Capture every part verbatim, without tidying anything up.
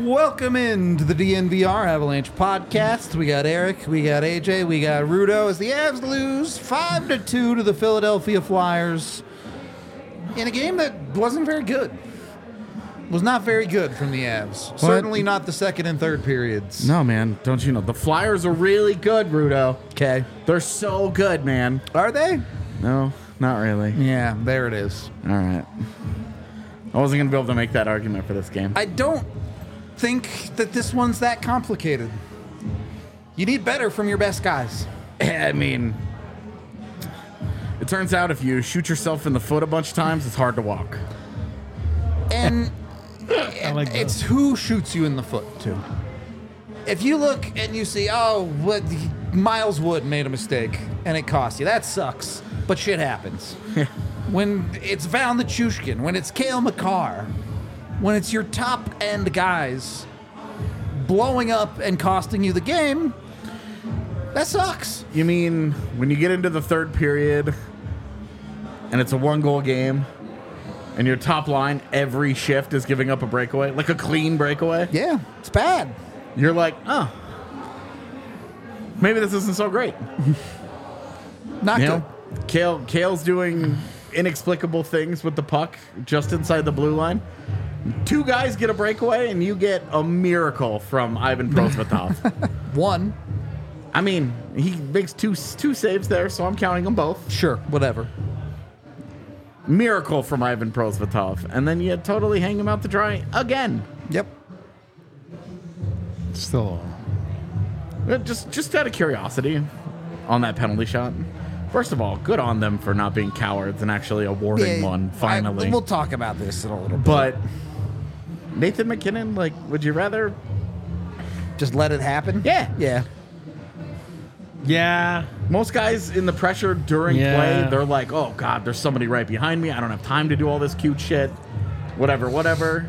Welcome into the D N V R Avalanche podcast. We got Eric, we got A J, we got Rudo as the Avs lose five to two to the Philadelphia Flyers in a game that wasn't very good. Was not very good from the Avs. What? Certainly not the second and third periods. No, man. Don't you know? The Flyers are really good, Rudo. Okay. They're so good, man. Are they? No, not really. Yeah, there it is. All right. I wasn't going to be able to make that argument for this game. I don't think that this one's that complicated. You need better from your best guys. I mean, it turns out if you shoot yourself in the foot a bunch of times, it's hard to walk. And I like that. It's who shoots you in the foot, too. If you look and you see, oh, what, Miles Wood made a mistake, and it cost you, that sucks. But shit happens. When it's Val Nichushkin, when it's Cale Makar, when it's your top-end guys blowing up and costing you the game, that sucks. You mean when you get into the third period and it's a one-goal game and your top line every shift is giving up a breakaway, like a clean breakaway? Yeah, it's bad. You're like, oh, maybe this isn't so great. Not You good. know, Kale, Kale's doing inexplicable things with the puck just inside the blue line. Two guys get a breakaway, and you get a miracle from Ivan Prosvetov. One. I mean, he makes two two saves there, so I'm counting them both. Sure, whatever. Miracle from Ivan Prosvetov. And then you totally hang him out to dry again. Yep. Still, Uh, Just, just out of curiosity on that penalty shot. First of all, good on them for not being cowards and actually awarding Yeah, one, finally. I, we'll talk about this in a little bit. But Nathan MacKinnon, like, would you rather? Just let it happen? Yeah. Yeah. yeah. Most guys in the pressure during Yeah. play, they're like, oh, God, there's somebody right behind me. I don't have time to do all this cute shit. Whatever, whatever.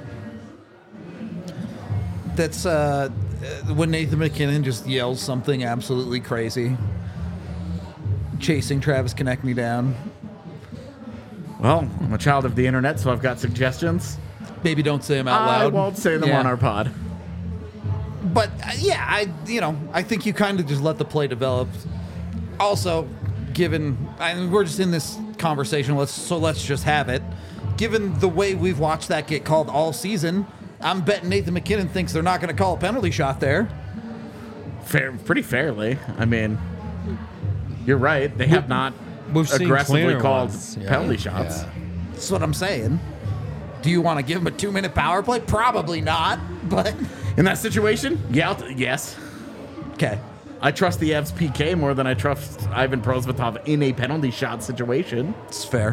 That's uh, when Nathan MacKinnon just yells something absolutely crazy. Chasing Travis Konechny down. Well, I'm a child of the internet, so I've got suggestions. Maybe don't say them out I loud. won't say them Yeah. on our pod. But uh, yeah, I you know I think you kind of just let the play develop. Also, given I mean, we're just in this conversation, let's so let's just have it. Given the way we've watched that get called all season, I'm betting Nathan MacKinnon thinks they're not going to call a penalty shot there. Fair, pretty fairly. I mean, you're right. They have not We've seen aggressively cleaner called ones. Yeah. penalty shots. Yeah. That's what I'm saying. Do you want to give him a two-minute power play? Probably not, but In that situation, yeah, I'll t- yes. okay. I trust the Avs P K more than I trust Ivan Prosvetov in a penalty shot situation. It's fair.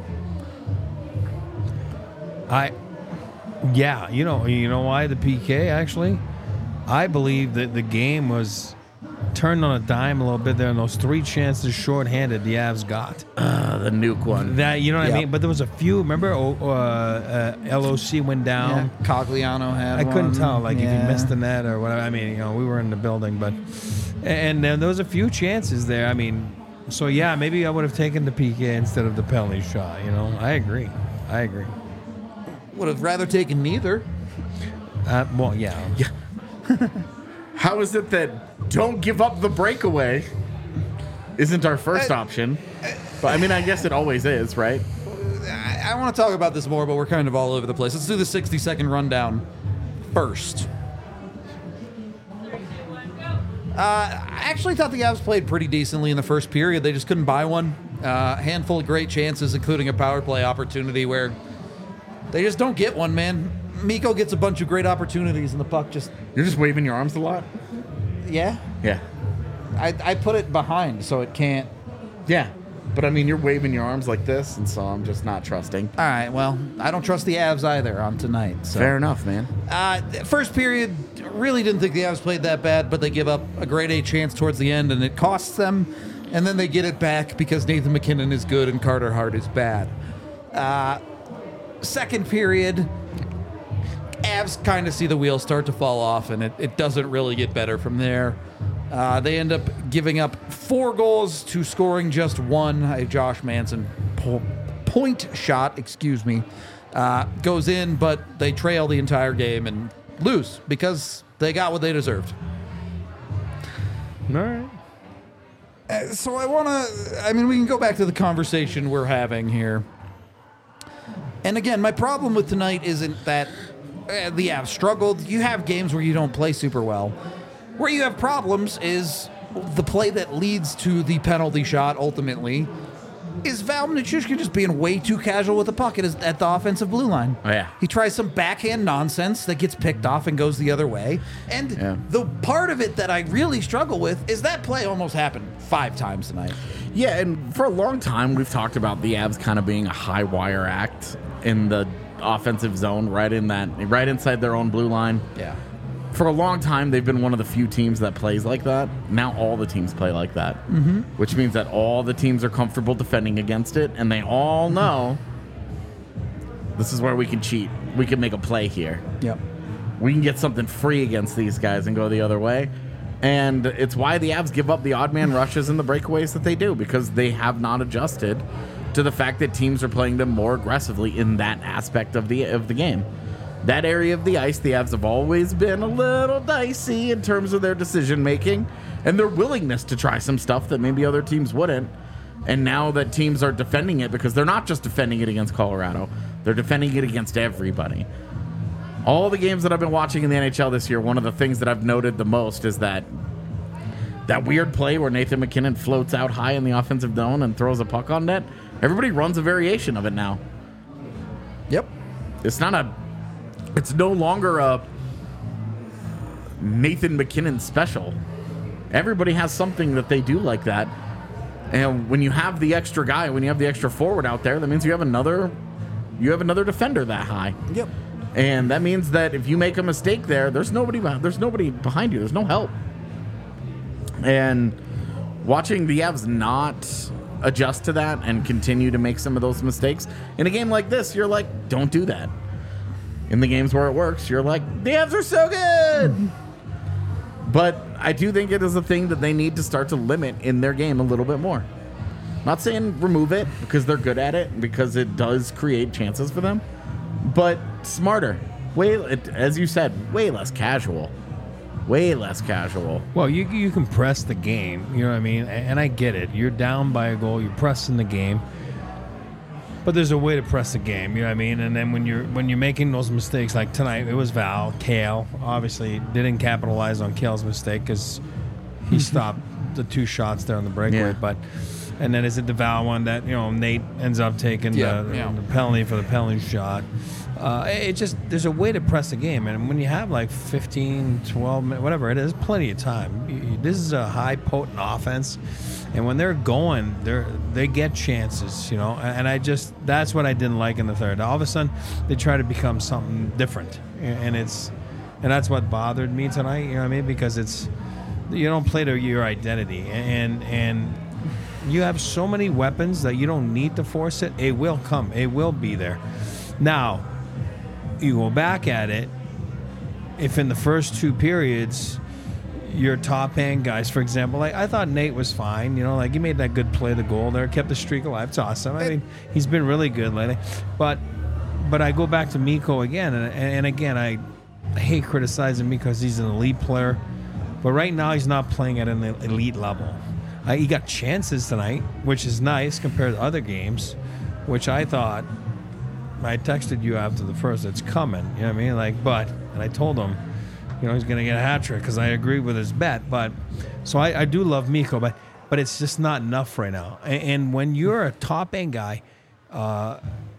I, yeah, you know, you know why the P K actually? I believe that the game was turned on a dime a little bit there, and those three chances shorthanded the Avs got. Uh, the nuke one. That you know what Yep. I mean? But there was a few. Remember, oh, uh, uh, L O C went down. Yeah, Cogliano had I couldn't one. tell, like if Yeah. he missed the net or whatever. I mean, you know, we were in the building, but and then there was a few chances there. I mean, so yeah, maybe I would have taken the P K instead of the penalty shot. You know, I agree. I agree. Would have rather taken neither. Uh, well, yeah. Yeah. How is it that don't give up the breakaway isn't our first Uh, option? But I mean, I guess it always is, right? I, I want to talk about this more, but we're kind of all over the place. Let's do the sixty-second rundown first. Uh, I actually thought the Avs played pretty decently in the first period. They just couldn't buy one. A uh, handful of great chances, including a power play opportunity where they just don't get one, man. Mikko gets a bunch of great opportunities, and the puck just... You're just waving your arms a lot? Yeah. Yeah. I, I put it behind, so it can't... Yeah. But I mean, you're waving your arms like this, and so I'm just not trusting. All right, well, I don't trust the Avs either on tonight. So. Fair enough, man. Uh, first period, really didn't think the Avs played that bad, but they give up a grade A chance towards the end, and it costs them. And then they get it back because Nathan MacKinnon is good and Carter Hart is bad. Uh, second period, Avs kind of see the wheels start to fall off, and it, it doesn't really get better from there. Uh, they end up giving up four goals to scoring just one. A Josh Manson po- point shot, excuse me, uh, goes in, but they trail the entire game, and lose because they got what they deserved. All right. Uh, so I want to, I mean, we can go back to the conversation we're having here. And again, my problem with tonight isn't that uh, the Avs struggled. You have games where you don't play super well. Where you have problems is the play that leads to the penalty shot ultimately is Val Nichushkin just being way too casual with the puck at, his, at the offensive blue line. Oh, yeah. He tries some backhand nonsense that gets picked off and goes the other way. And Yeah. the part of it that I really struggle with is that play almost happened five times tonight. Yeah, and for a long time, we've talked about the Avs kind of being a high wire act in the offensive zone, right in that, right inside their own blue line. Yeah. For a long time, they've been one of the few teams that plays like that. Now all the teams play like that, mm-hmm. which means that all the teams are comfortable defending against it, and they all know this is where we can cheat. We can make a play here. Yep. We can get something free against these guys and go the other way. And it's why the Avs give up the odd man rushes and the breakaways that they do, because they have not adjusted to the fact that teams are playing them more aggressively in that aspect of the of the game. That area of the ice, the Avs have always been a little dicey in terms of their decision making and their willingness to try some stuff that maybe other teams wouldn't. And now that teams are defending it, because they're not just defending it against Colorado, they're defending it against everybody. All the games that I've been watching in the N H L this year, one of the things that I've noted the most is that that weird play where Nathan MacKinnon floats out high in the offensive zone and throws a puck on net. Everybody runs a variation of it now. Yep. It's not a... It's no longer a Nathan MacKinnon special. Everybody has something that they do like that. And when you have the extra guy, when you have the extra forward out there, that means you have another you have another defender that high. Yep. And that means that if you make a mistake there, there's nobody there's nobody behind you. There's no help. And watching the Avs not adjust to that and continue to make some of those mistakes in a game like this, you're like, don't do that. In the games where it works, you're like, the Avs are so good. But I do think it is a thing that they need to start to limit in their game a little bit more. Not saying remove it because they're good at it, because it does create chances for them, but smarter. Way, as you said, way less casual. Way less casual. Well, you you can press the game, you know what I mean? And I get it. You're down by a goal, you're pressing the game. But there's a way to press the game, you know what I mean? And then when you're when you're making those mistakes, like tonight, it was Val, Kale, obviously didn't capitalize on Kale's mistake because he stopped the two shots there on the breakaway. Yeah. But and then is it the Val one that, you know, Nate ends up taking Yeah, the, yeah. the penalty for the penalty shot. Uh, it just, there's a way to press the game. And when you have like fifteen, twelve minutes, whatever it is, plenty of time. You- you- This is a high potent offense. And when they're going, they they get chances, you know. And I just, that's what I didn't like in the third. All of a sudden, they try to become something different, and it's, and that's what bothered me tonight. You know what I mean? Because it's, you don't play to your identity, and and you have so many weapons that you don't need to force it. It will come. It will be there. Now, you go back at it. If in the first two periods, your top end guys, for example, like I thought Nate was fine, you know, like he made that good play, the goal there, kept the streak alive. It's awesome. I mean, he's been really good lately. But but I go back to Mikko again, and, and again, I hate criticizing Mikko because he's an elite player. But right now, he's not playing at an elite level. Uh, he got chances tonight, which is nice compared to other games, which I thought, I texted you after the first, it's coming. You know what I mean? Like, but, and I told him, you know, he's going to get a hat trick because I agree with his bet. But so I, I do love Mikko, but but it's just not enough right now. And, and when you're a top end guy, uh,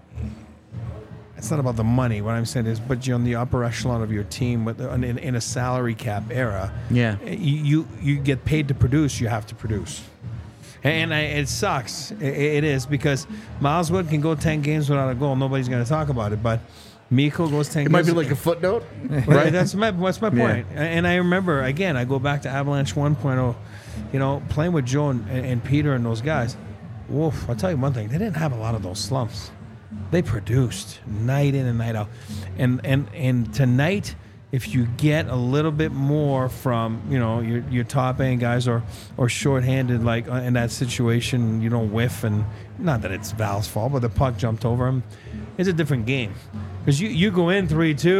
it's not about the money. What I'm saying is, but you're on the upper echelon of your team with in, in a salary cap era. Yeah. you you, you get paid to produce. You have to produce. And I, it sucks. It, it is because Miles Wood can go ten games without a goal. Nobody's going to talk about it, but. Mikko goes ten It games. might be like a footnote. Right, that's my that's my Yeah. point. And I remember again, I go back to Avalanche one point oh, you know, playing with Joe and, and Peter and those guys. Woof! I'll tell you one thing: they didn't have a lot of those slumps. They produced night in and night out, and and and tonight, if you get a little bit more from you know your your top end guys or or shorthanded like uh, in that situation, you don't whiff, and not that it's Val's fault, but the puck jumped over him. It's a different game. Because you, you go in three two,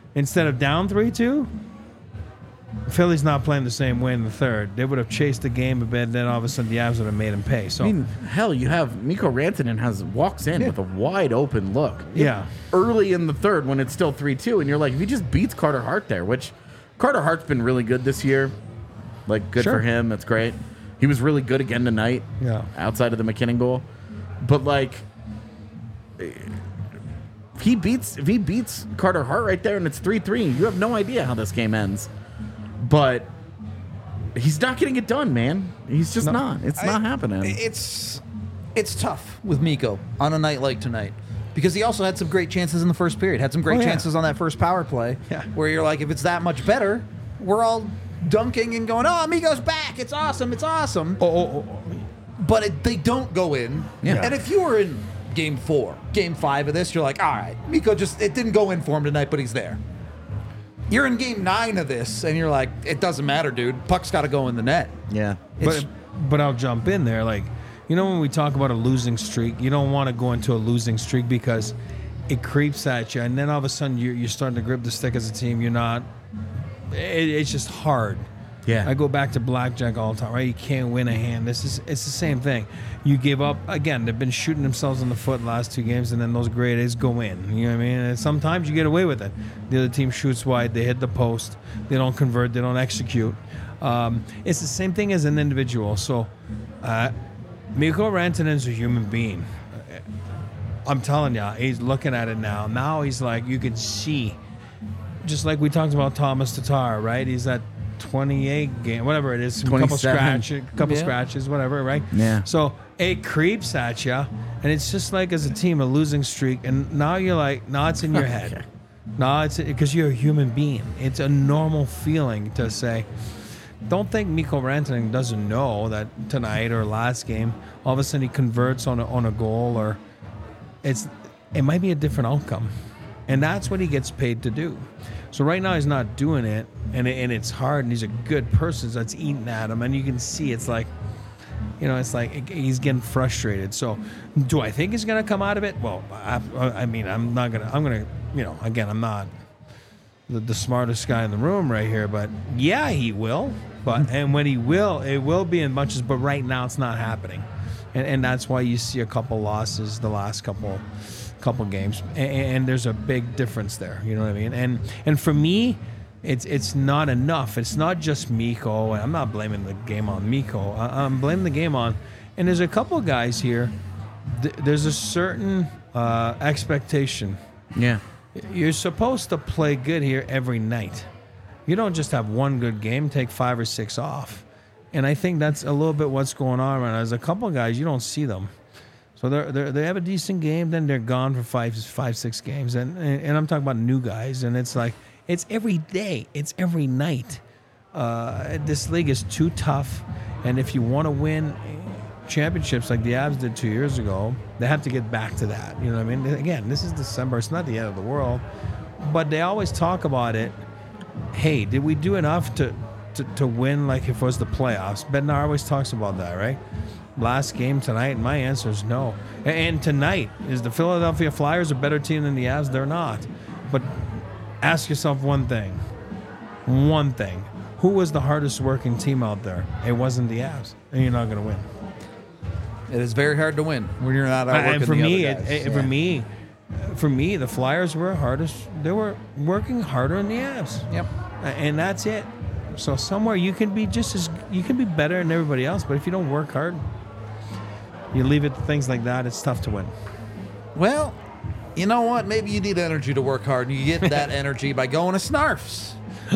instead of down three two, Philly's not playing the same way in the third. They would have chased the game a bit, then all of a sudden the Avs would have made him pay. So I mean, hell, you have Mikko Rantanen has walks in with a wide open look. Yeah. Early in the third when it's still three two, and you're like, if he just beats Carter Hart there, which Carter Hart's been really good this year. Like, good Sure. for him. That's great. He was really good again tonight. Yeah. Outside of the McKinnon goal. But, like, if he beats if he beats Carter Hart right there and it's three three, you have no idea how this game ends. But he's not getting it done, man. He's just No. not. It's not I- happening. It's it's tough with Mikko on a night like tonight because he also had some great chances in the first period. Had some great Oh, yeah. chances on that first power play Yeah. where you're like, if it's that much better, we're all dunking and going, "Oh, Mikko's back! It's awesome! It's awesome!" Oh, oh, oh. But it, they don't go in. Yeah. And if you were in game four, game five of this, you're like, all right, Mikko just, it didn't go in for him tonight, but he's there. You're in game nine of this, and you're like, it doesn't matter, dude. Puck's got to go in the net. yeah. It's, But but I'll jump in there. Like, you know, when we talk about a losing streak, you don't want to go into a losing streak because it creeps at you, and then all of a sudden you're, you're starting to grip the stick as a team. You're not. It, it's just hard. Yeah. I go back to blackjack all the time, right? You can't win a hand. This is it's the same thing. You give up again. They've been shooting themselves in the foot the last two games, and then those grade A's go in. You know what I mean? And sometimes you get away with it. The other team shoots wide, they hit the post, they don't convert, they don't execute. Um, it's the same thing as an individual. So, uh, Mikko Rantanen's a human being. I'm telling you, he's looking at it now. Now he's like, you can see, just like we talked about Thomas Tatar, right? He's at twenty-eight game, whatever it is, a couple twenty-seven. scratch, couple Yeah. scratches, whatever, right? Yeah. So it creeps at you, and it's just like as a team a losing streak, and now you're like, now it's in your head. Okay. No, it's because you're a human being. It's a normal feeling to say. Don't think Mikko Rantanen doesn't know that tonight or last game, all of a sudden he converts on a, on a goal, or it's it might be a different outcome, and that's what he gets paid to do. So right now he's not doing it, and it, and it's hard, and he's a good person that's eating at him, and you can see it's like, you know, it's like he's getting frustrated. So do I think he's gonna come out of it? Well, I, I mean, I'm not gonna. I'm gonna, you know, again, I'm not the, the smartest guy in the room right here, but yeah, he will. But and when he will, it will be in bunches. But right now, it's not happening, and and that's why you see a couple losses the last couple couple games, and, and there's a big difference there. You know what I mean? And and for me, it's it's not enough. It's not just Mikko. I'm not blaming the game on Mikko. I, I'm blaming the game on, and there's a couple guys here. Th- there's a certain uh, expectation. Yeah. You're supposed to play good here every night. You don't just have one good game, take five or six off. And I think that's a little bit what's going on right now. There's a couple of guys, you don't see them. So they they they have a decent game, then they're gone for five, five, six games. And, and and I'm talking about new guys, and it's like, it's every day. It's every night. Uh, this league is too tough. And if you want to win championships like the Avs did two years ago, they have to get back to that. You know what I mean? Again, this is December. It's not the end of the world. But they always talk about it. Hey, did we do enough to, to, to win like if it was the playoffs? Bednar always talks about that, right? Last game tonight, my answer is no. And, and tonight, is the Philadelphia Flyers a better team than the Avs? They're not. But ask yourself one thing. One thing. Who was the hardest working team out there? It wasn't the Avs. And you're not going to win. it is very hard to win when you're not outworking And for the me, other it, guys. it, for Yeah. me, for me, the Flyers were hardest. They were working harder than the Avs. Yep. And that's it. So somewhere you can be just as you can be better than everybody else, but if you don't work hard, you leave it to things like that, it's tough to win. Well, you know what? Maybe you need energy to work hard, and you get that energy by going to Snarfs.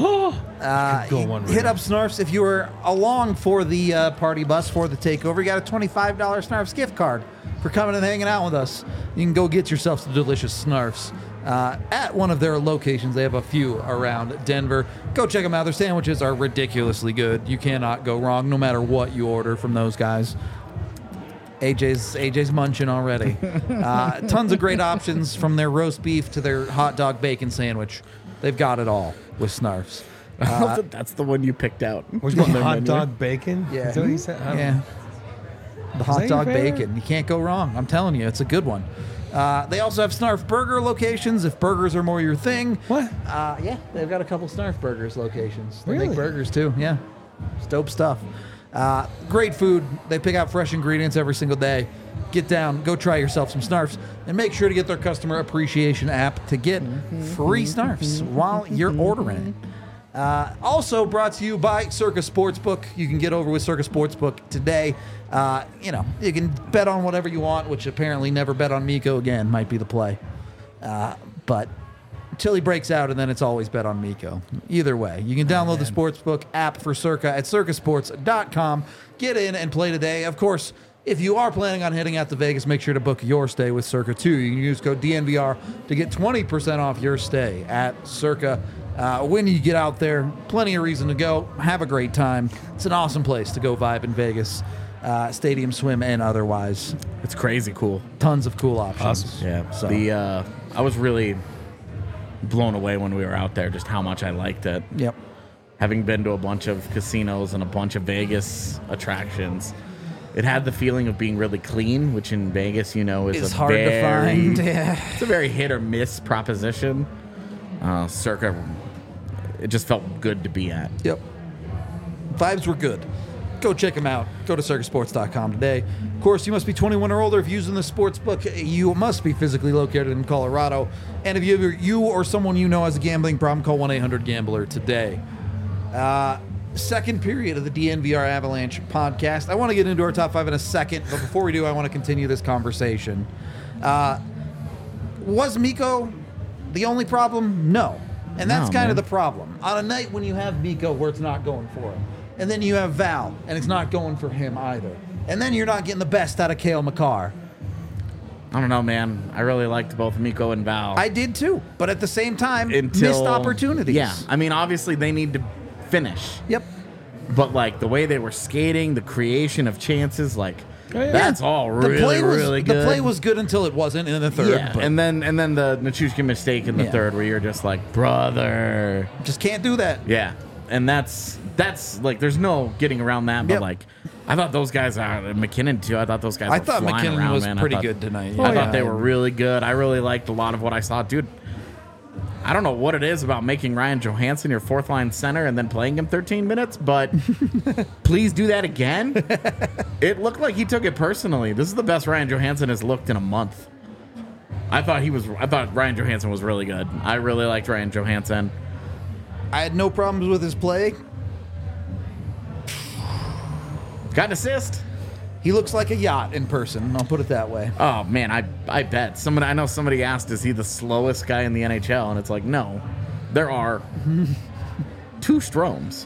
Uh, go you one right hit now. up Snarfs if you were along for the uh, party bus for the takeover. You got a twenty-five dollars Snarfs gift card for coming and hanging out with us. You can go get yourself some delicious Snarfs uh, at one of their locations. They have a few around Denver. Go check them out. Their sandwiches are ridiculously good. You cannot go wrong no matter what you order from those guys. A J's A J's munching already. Uh, tons of great options from their roast beef to their hot dog bacon sandwich. They've got it all with Snarfs. I love that that's the one you picked out. Was on it their hot menu. dog bacon? Yeah. Is that what you said? I don't Yeah. know. The that hot your dog favorite? bacon. You can't go wrong. I'm telling you, it's a good one. Uh, they also have Snarf Burger locations if burgers are more your thing. What? Uh, yeah, they've got a couple Snarf Burgers locations. They Really? make burgers too. Yeah, it's dope stuff. Uh, great food. They pick out fresh ingredients every single day. Get down, go try yourself some Snarfs, and make sure to get their customer appreciation app to get free Snarfs while you're ordering it. Uh, also brought to you by Circa Sportsbook. You can get over with Circa Sportsbook today. Uh, you know, you can bet on whatever you want, which apparently never bet on Miko again might be the play. Uh, but until he breaks out, and then it's always bet on Miko. Either way, you can download the Sportsbook app for Circa at circa sports dot com. Get in and play today. Of course, if you are planning on heading out to Vegas, make sure to book your stay with Circa too. You can use code D N V R to get twenty percent off your stay at Circa. Uh, when you get out there, plenty of reason to go. Have a great time. It's an awesome place to go vibe in Vegas. Uh, stadium swim and otherwise. It's crazy cool. Tons of cool options. Awesome. Yeah. So- The uh, I was really blown away when we were out there, just how much I liked it. Yep. Having been to a bunch of casinos and a bunch of Vegas attractions, it had the feeling of being really clean, which in Vegas, you know, is It's a hard to very, find. Yeah. It's a very hit or miss proposition. Uh, Circa, it just felt good to be at. Yep. Vibes were good. Go check them out. Go to circa sports dot com today. Of course, you must be twenty-one or older if using the sports book. You must be physically located in Colorado. And if you, you or someone you know has a gambling problem, call one eight hundred gambler today. Uh, second period of the D N V R Avalanche podcast. I want to get into our top five in a second, but before we do, I want to continue this conversation. Uh, was Miko the only problem? No. And that's No, kind man. of the problem. On a night when you have Miko where it's not going for him, and then you have Val, and it's not going for him either, and then you're not getting the best out of Cale Makar. I don't know, man. I really liked both Miko and Val. I did too, but at the same time, until, missed opportunities. Yeah. I mean, obviously, they need to finish. Yep. But, like, the way they were skating, the creation of chances, like, Oh, yeah. that's all really, the play was, really good. The play was good until it wasn't in the third. Yeah, but and then and then the Nichushkin mistake in the Yeah. third, where you're just like, brother. just can't do that. Yeah, and that's that's like, there's no getting around that. But Yep. like, I thought those guys are McKinnon too. I thought those guys. I were thought flying McKinnon around, was man. I pretty thought- good tonight. I Yeah. thought they were really good. I really liked a lot of what I saw, dude. I don't know what it is about making Ryan Johansson your fourth line center and then playing him thirteen minutes, but please do that again. It looked like he took it personally. This is the best Ryan Johansson has looked in a month. I thought he was. I thought Ryan Johansson was really good. I really liked Ryan Johansson. I had no problems with his play. Got an assist. He looks like a yacht in person. I'll put it that way. Oh man, I I bet somebody. I know somebody asked, "Is he the slowest guy in the N H L?" And it's like, no, there are two Stromes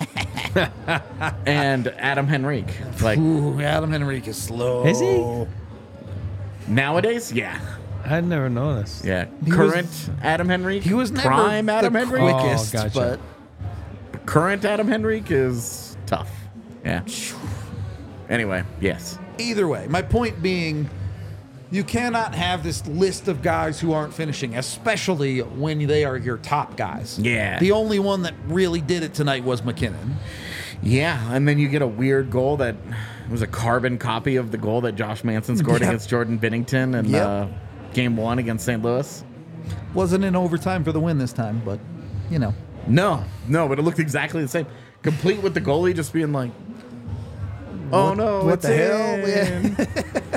and Adam Henrique. Like Ooh, Adam Henrique is slow. Is he? nowadays, yeah, I'd never noticed. yeah. He Current was- Adam Henrique, He was never prime the Adam Henrique. quickest, Oh, gotcha. but Current Adam Henrique is tough. Yeah. Anyway, yes. either way, my point being, you cannot have this list of guys who aren't finishing, especially when they are your top guys. Yeah. The only one that really did it tonight was McKinnon. Yeah, and then you get a weird goal that was a carbon copy of the goal that Josh Manson scored Yep. against Jordan Binnington in Yep. uh, game one against Saint Louis. Wasn't in overtime for the win this time, but, you know. No, no, but it looked exactly the same. Complete with the goalie just being like, "Oh What- no, what it's the hell?" in." Yeah.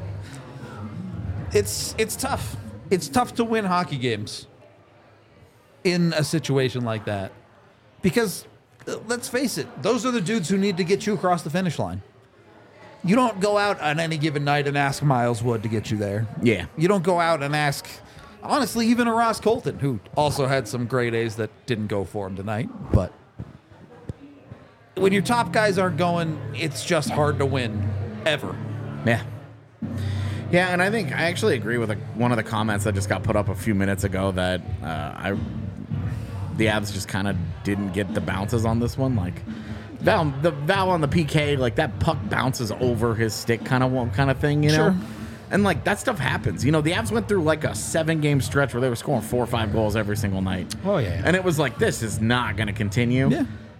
It's it's tough. It's tough to win hockey games in a situation like that. Because, uh, let's face it, those are the dudes who need to get you across the finish line. You don't go out on any given night and ask Miles Wood to get you there. Yeah. You don't go out and ask, honestly, even a Ross Colton, who also had some great A's that didn't go for him tonight. But when your top guys aren't going, it's just hard to win, ever. Yeah. Yeah, and I think I actually agree with a, one of the comments that just got put up a few minutes ago that uh, I the Avs just kind of didn't get the bounces on this one. Like Val, the Val on the P K, like that puck bounces over his stick, kind of kind of thing, you know. Sure. And like that stuff happens. You know, the Avs went through like a seven game stretch where they were scoring four or five goals every single night. Oh, yeah. And it was like, this is not going to continue. Yeah.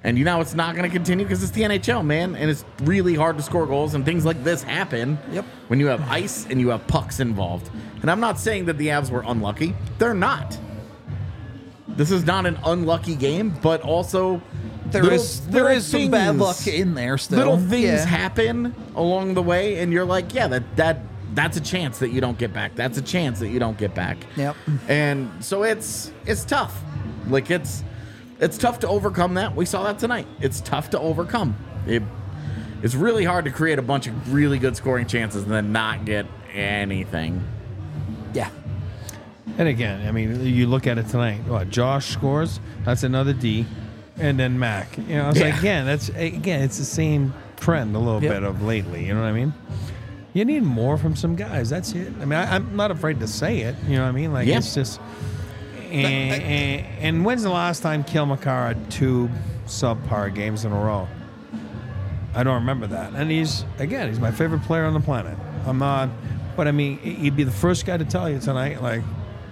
And you know it's not going to continue because it's the N H L, man, and it's really hard to score goals, and things like this happen Yep. when you have ice and you have pucks involved. And I'm not saying that the Avs were unlucky. They're not. This is not an unlucky game, but also There little- is there little is some bad things- luck in there still. Little things Yeah. happen along the way, and you're like, yeah, that that that's a chance that you don't get back. That's a chance that you don't get back. Yep. And so it's it's tough. Like it's it's tough to overcome that. We saw that tonight. It's tough to overcome. It it's really hard to create a bunch of really good scoring chances and then not get anything. Yeah. And again, I mean, you look at it tonight. What Josh scores? That's another D, and then Mac. You know, it's Yeah. like again, that's again, it's the same trend a little Yep. bit of lately. You know what I mean? You need more from some guys. That's it. I mean, I, I'm not afraid to say it. You know what I mean? Like Yeah. it's just. And, and, and when's the last time Kale McCarr had two subpar games in a row? I don't remember that. And he's again, he's my favorite player on the planet. I'm not, but I mean, he'd be the first guy to tell you tonight, like.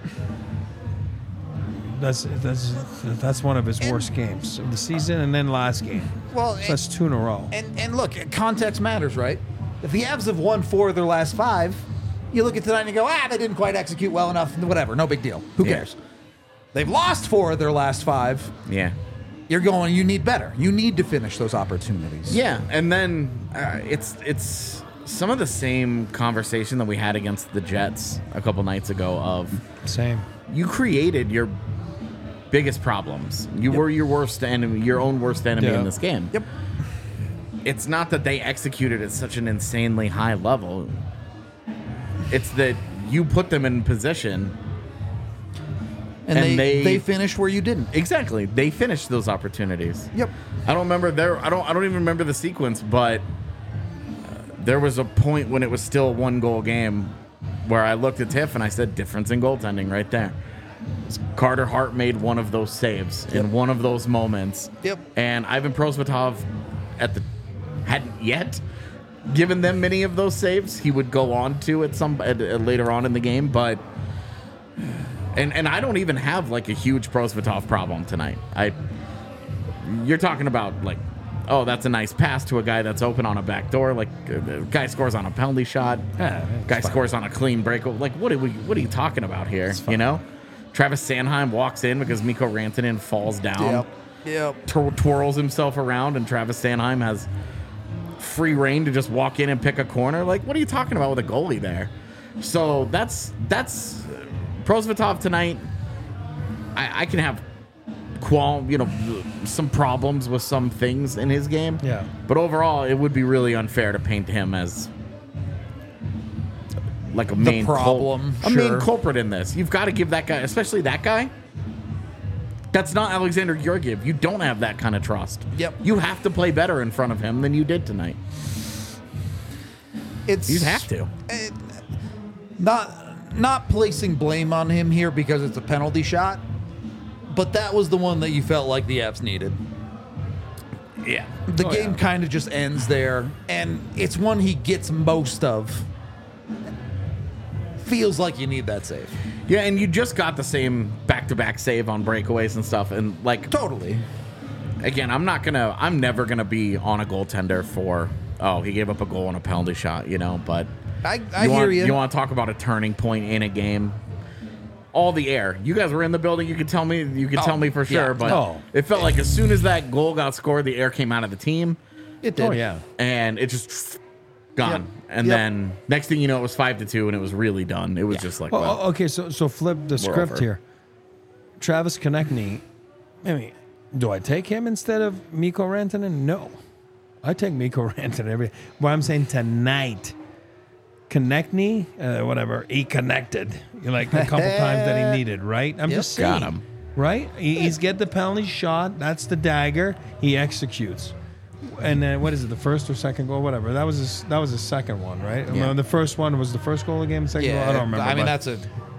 That's that's that's one of his worst games of the season, and then last game. Well, so that's two in a row. And and look, context matters, right? If the Avs have won four of their last five, you look at tonight and you go, ah, they didn't quite execute well enough. Whatever, no big deal. Who Yeah. cares? They've lost four of their last five. Yeah. You're going. You need better. You need to finish those opportunities. Yeah, and then uh, it's it's some of the same conversation that we had against the Jets a couple nights ago of Same. you created your biggest problems. You Yep. were your worst enemy, your own worst enemy Yeah. in this game. Yep. It's not that they executed at such an insanely high level. It's that you put them in position. And, And they, they- they finished where you didn't. Exactly. They finished those opportunities. Yep. I don't remember there. I don't. I don't even remember the sequence, but uh, there was a point when it was still a one goal game where I looked at Tiff and I said, "Difference in goaltending right there." Carter Hart made one of those saves Yep. in one of those moments. Yep. And Ivan Prosvetov at the hadn't yet given them many of those saves. He would go on to at some at, at later on in the game, but. And and I don't even have like a huge Prosvetov problem tonight. I you're talking about like, oh, that's a nice pass to a guy that's open on a back door. Like, uh, the guy scores on a penalty shot. Yeah, it's guy fine. scores on a clean break. Like, what are we? What are you talking about here? You know, Travis Sanheim walks in because Mikko Rantanen falls down, Yep. Yep. twir- twirls himself around, and Travis Sanheim has free reign to just walk in and pick a corner. Like, what are you talking about with a goalie there? So that's that's uh, Prosvetov tonight. I, I can have qual, you know, some problems with some things in his game. Yeah. But overall, it would be really unfair to paint him as like a main cul- problem, a main sure. culprit in this. You've got to give that guy, especially that guy. That's not Alexander Georgiev. You don't have that kind of trust. Yep. You have to play better in front of him than you did tonight. It's You have to. it- not not placing blame on him here because it's a penalty shot, but that was the one that you felt like the Avs needed. Yeah. The Oh, game yeah. kind of just ends there, and it's one he gets most of. Feels like you need that save. Yeah, and you just got the same back-to-back save on breakaways and stuff, and like Totally. again, I'm not gonna, I'm never gonna be on a goaltender for, oh, he gave up a goal on a penalty shot, you know. But I, I you hear want, you. You want to talk about a turning point in a game? All the air. You guys were in the building. You could tell me. You could Oh, tell me for yeah. sure. But Oh. it felt like as soon as that goal got scored, the air came out of the team, It did. Oh yeah. and it just gone. Yep. And Yep. then next thing you know, it was five to two, and it was really done. It was just like, Oh, well, oh, okay, so so flip the script over. here. Travis Konechny. I mean, do I take him instead of Mikko Rantanen? No, I take Mikko Rantanen every. What I'm saying tonight, Konechny, uh, whatever, he connected. Like a couple times that he needed, right? I'm Yep. just saying, Got him. right? He, he's get the penalty shot. That's the dagger. He executes. And then what is it? The first or second goal, whatever. That was his, that was his second one, right? Yeah. The first one was the first goal of the game. The second Yeah, goal, I don't remember. I mean, but- that's a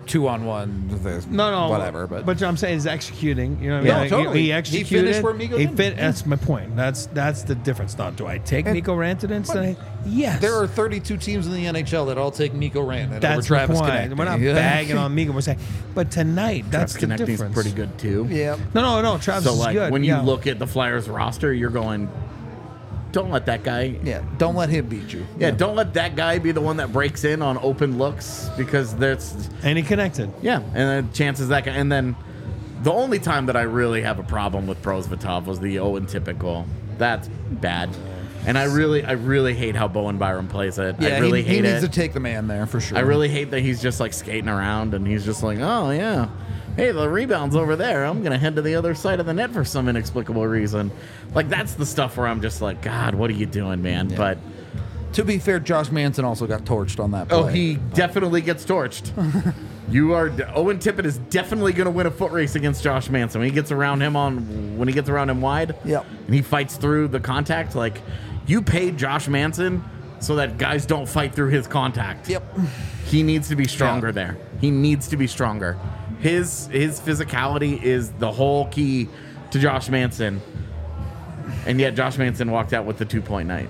two on one. No, no, whatever. But, but I'm saying he's executing. You know, what Yeah, I mean? no, Like, totally. He, He he executed. finished where Miko he didn't. fit. That's my point. That's that's the difference. Now, do I take And- Miko Rantanen instead? Yes. there are thirty-two teams in the N H L that all take Miko Rantanen over That's Travis the point. Konechny. We're not Yeah. bagging on Miko. We're saying, but tonight, that's Travis the Konechny's difference. pretty good too. Yeah. No, no, no. Travis So is like good. when you yeah. look at the Flyers roster, you're going, don't let that guy. Yeah. Don't let him beat you. Yeah, don't let that guy be the one that breaks in on open looks because there's and he connected. yeah, and then chances that guy. And then the only time that I really have a problem with Prosvetov was the Owen Tippett goal. That's bad, and I really, I really hate how Bowen Byram plays it. Yeah, I really he, he hate needs it. to take the man there for sure. I really hate that he's just like skating around and he's just like, oh yeah, hey, the rebound's over there. I'm gonna head to the other side of the net for some inexplicable reason. Like that's the stuff where I'm just like, God, what are you doing, man? But To be fair, Josh Manson also got torched on that play. oh, he definitely gets torched. You are Owen Tippett is definitely going to win a foot race against Josh Manson when he gets around him on when he gets around him wide. Yep. And he fights through the contact. Like you paid Josh Manson so that guys don't fight through his contact. Yep. He needs to be stronger Yeah. there. He needs to be stronger. His his physicality is the whole key to Josh Manson. And yet Josh Manson walked out with the two point night.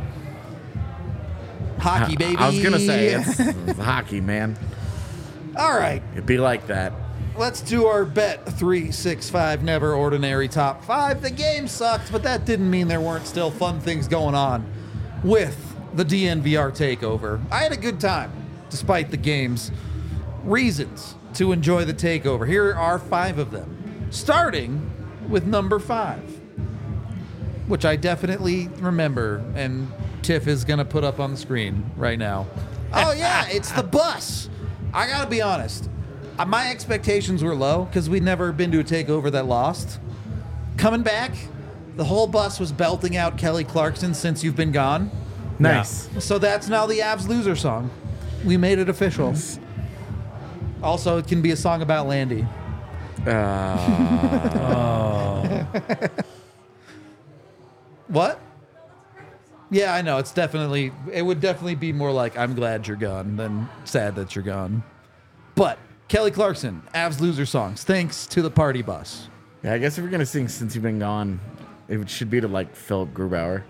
Hockey, baby. I was gonna say it's, it's hockey, man. All right. It'd be like that. Let's do our bet three six five never ordinary top five. The game sucked, but that didn't mean there weren't still fun things going on with the D N V R takeover. I had a good time despite the game's reasons to enjoy the takeover. Here are five of them, starting with number five, which I definitely remember, and Tiff is going to put up on the screen right now. Oh, yeah, it's the bus. I got to be honest. Uh, My expectations were low because we'd never been to a takeover that lost. Coming back, the whole bus was belting out Kelly Clarkson Since You've Been Gone. Nice. So that's now the Avs loser song. We made it official. Also, it can be a song about Landy. What? Yeah, I know. It's definitely, it would definitely be more like, I'm glad you're gone than sad that you're gone. But Kelly Clarkson, Avs loser songs, thanks to the party bus. Yeah, I guess if you're gonna sing Since You've Been Gone, it should be to like Philip Grubauer.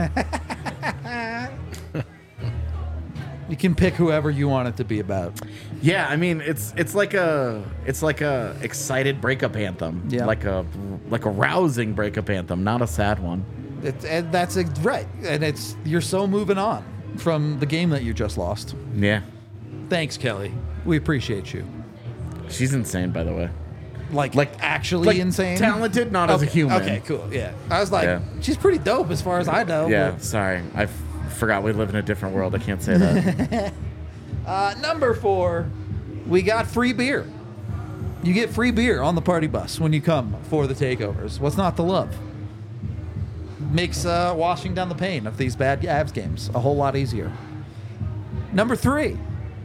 You can pick whoever you want it to be about. Yeah, I mean it's it's like a it's like a excited breakup anthem. Yeah. Like a like a rousing breakup anthem, not a sad one. It's, and that's ex- right. And it's, you're so moving on from the game that you just lost. Yeah. Thanks, Kelly. We appreciate you. She's insane, by the way. Like, Like- actually like insane. talented, not as a Okay, human. Okay, cool. Yeah. I was like, Yeah. she's pretty dope as far as I know. Yeah, but- sorry. I f- forgot we live in a different world. I can't say that. Uh, number four, we got free beer. You get free beer on the party bus when you come for the takeovers. What's not to love? Makes uh, washing down the pain of these bad Avs games a whole lot easier. Number three,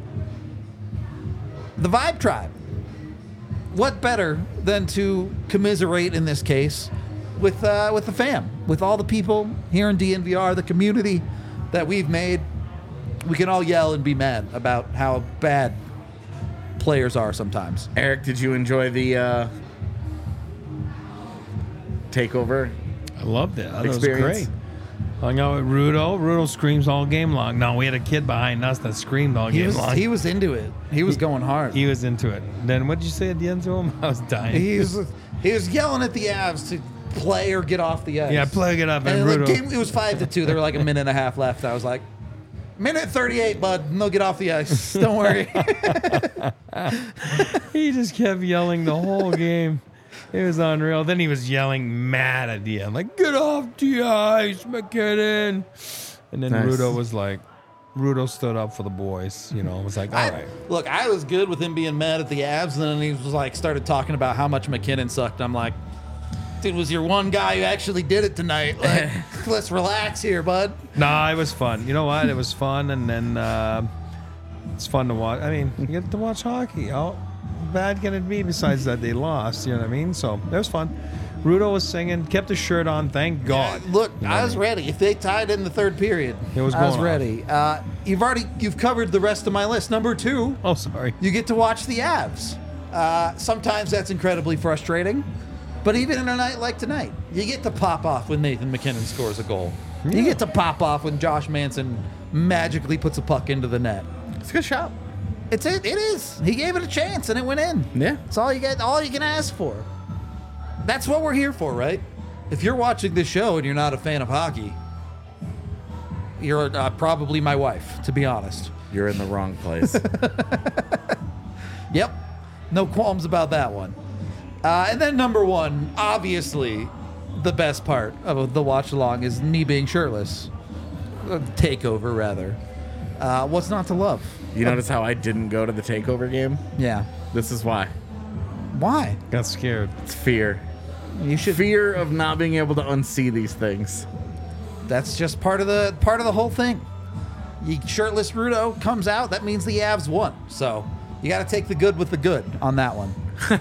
the Vibe Tribe. What better than to commiserate in this case with uh, with the fam, with all the people here in D N V R, the community that we've made. We can all yell and be mad about how bad players are sometimes. Eric, did you enjoy the uh, takeover? I loved it. I thought it was Experience. great. Hung out with Rudo. Rudo screams all game long. No, we had a kid behind us that screamed all He game was, long. he was into it. He was going hard. He was into it. Then what did you say at the end to him? I was dying. He was he was yelling at the Avs to play or get off the ice. Yeah, play it up. And, And the Rudo. game, it was five to two. There were like a minute and a half left. I was like, minute thirty-eight, bud. And they'll get off the ice. Don't worry. He just kept yelling the whole game. It was unreal. Then he was yelling mad at the end, like, get off the ice, McKinnon. And then Nice. Rudo was like, Rudo stood up for the boys, you know, was like, all I, right. Look, I was good with him being mad at the Avs, and then he was like, started talking about how much McKinnon sucked. I'm like, dude, was your one guy who actually did it tonight. Like, let's relax here, bud. Nah, it was fun. You know what? It was fun, and then uh, it's fun to watch. I mean, you get to watch hockey. How bad can it be besides that they lost? You know what I mean? So it was fun. Rudo was singing, kept his shirt on. Thank God. Yeah, look, I was ready. If they tied in the third period, It was I was going ready. Uh, you've already you've covered the rest of my list. Number two, Oh, sorry. you get to watch the Avs. Uh, sometimes that's incredibly frustrating, but even in a night like tonight, you get to pop off when Nathan McKinnon scores a goal. You get to pop off when Josh Manson magically puts a puck into the net. It's a good shot. It's it. It is. He gave it a chance and it went in. Yeah. It's all you get. All you can ask for. That's what we're here for, right? If you're watching this show and you're not a fan of hockey, you're uh, probably my wife, to be honest. You're in the wrong place. Yep. No qualms about that one. Uh, and then number one, obviously, the best part of the watch along is me being shirtless. Uh, takeover, rather. Uh, what's not to love? You notice how I didn't go to the takeover game? Yeah. This is why. Why? Got scared. It's fear. You should. Fear of not being able to unsee these things. That's just part of the part of the whole thing. You shirtless Rudo comes out. That means the Avs won. So you got to take the good with the good on that one.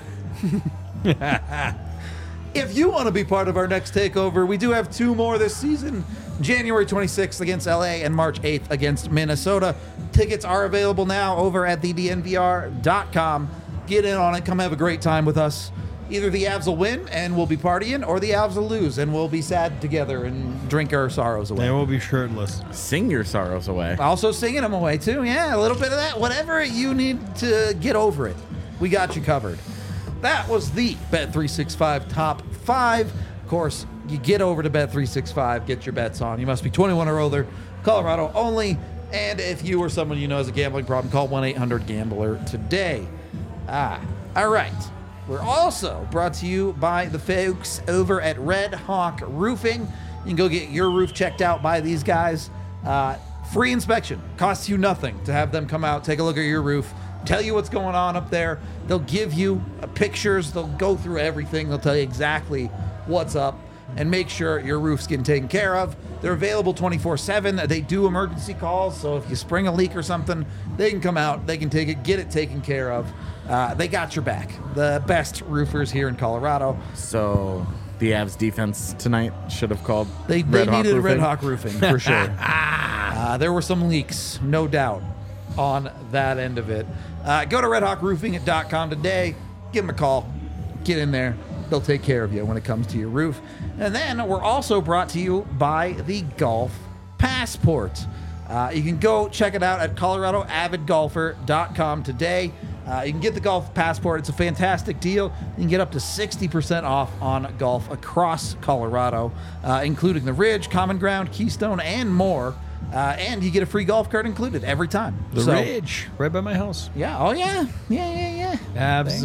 If you want to be part of our next takeover, we do have two more this season. January twenty-sixth against L A and March eighth against Minnesota. Tickets are available now over at the D N V R dot com. Get in on it. Come have a great time with us. Either the Avs will win and we'll be partying, or the Avs will lose and we'll be sad together and drink our sorrows away. They will be shirtless. Sing your sorrows away. Also singing them away too. Yeah, a little bit of that. Whatever you need to get over it, we got you covered. That was the Bet three sixty-five Top five. Of course, you get over to Bet three sixty-five, get your bets on. You must be twenty-one or older, Colorado only. And if you or someone you know has a gambling problem, call one eight hundred gambler today. Ah, all right. We're also brought to you by the folks over at Red Hawk Roofing. You can go get your roof checked out by these guys. Uh, free inspection. Costs you nothing to have them come out, take a look at your roof, tell you what's going on up there. They'll give you uh, pictures. They'll go through everything. They'll tell you exactly what's up and make sure your roof's getting taken care of. They're available twenty-four seven. They do emergency calls, so if you spring a leak or something, they can come out, they can take it, get it taken care of. Uh, they got your back. The best roofers here in Colorado. So the Avs defense tonight should have called. They, they Red Hawk needed Roofing. Red Hawk Roofing for sure. uh, there were some leaks, no doubt, on that end of it. Uh, go to red hawk roofing dot com today. Give them a call. Get in there. They'll take care of you when it comes to your roof. And then we're also brought to you by the Golf Passport. Uh, you can go check it out at colorado avid golfer dot com today. Uh, you can get the Golf Passport. It's a fantastic deal. You can get up to sixty percent off on golf across Colorado, uh, including the Ridge, Common Ground, Keystone, and more. Uh, and you get a free golf cart included every time. The So- Ridge, right by my house. Yeah. Oh, yeah. Yeah, yeah, yeah. Avs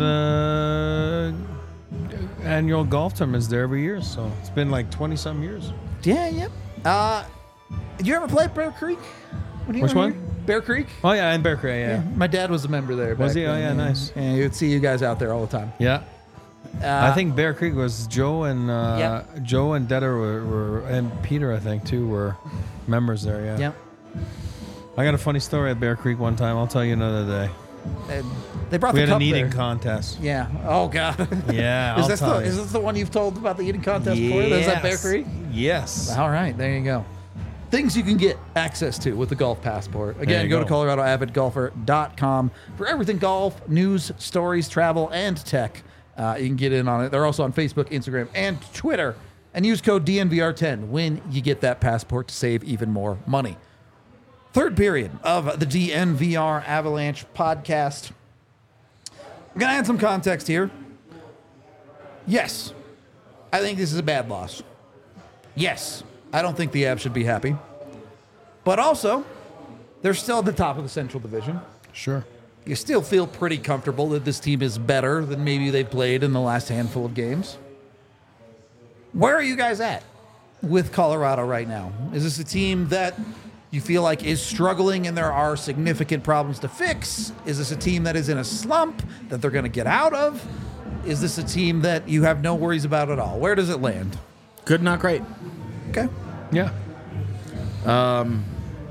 uh, annual golf tournament is there every year, so it's been like twenty some years. Yeah, yep. Uh, did you ever play at Bear Creek? When you Which were one? here? Bear Creek? Oh yeah, in Bear Creek, yeah. My dad was a member there. Was back he? Oh, then, yeah, nice. And you would see you guys out there all the time. Yeah. Uh, I think Bear Creek was Joe and uh, Yep. Joe and Detter were, were and Peter I think too were members there. Yeah. Yep. I got a funny story at Bear Creek one time. I'll tell you another day. And they brought We the had cup an eating there. contest. Yeah. Oh God. Yeah, is I'll this tell the you. is this the one you've told about the eating contest before? Is that Bear Creek? Yes. All right. There you go. Things you can get access to with the Golf Passport. Again, you go, go. to colorado avid golfer dot com for everything golf, news, stories, travel, and tech. Uh, you can get in on it. They're also on Facebook, Instagram, and Twitter. And use code D N V R ten when you get that passport to save even more money. Third period of the D N V R Avalanche podcast. I'm going to add some context here. Yes, I think this is a bad loss. Yes, I don't think the Avs should be happy. But also, they're still at the top of the Central Division. Sure. You still feel pretty comfortable that this team is better than maybe they've played in the last handful of games. Where are you guys at with Colorado right now? Is this a team that you feel like is struggling and there are significant problems to fix? Is this a team that is in a slump that they're going to get out of? Is this a team that you have no worries about at all? Where does it land? Good, not great. Okay. Yeah. Um,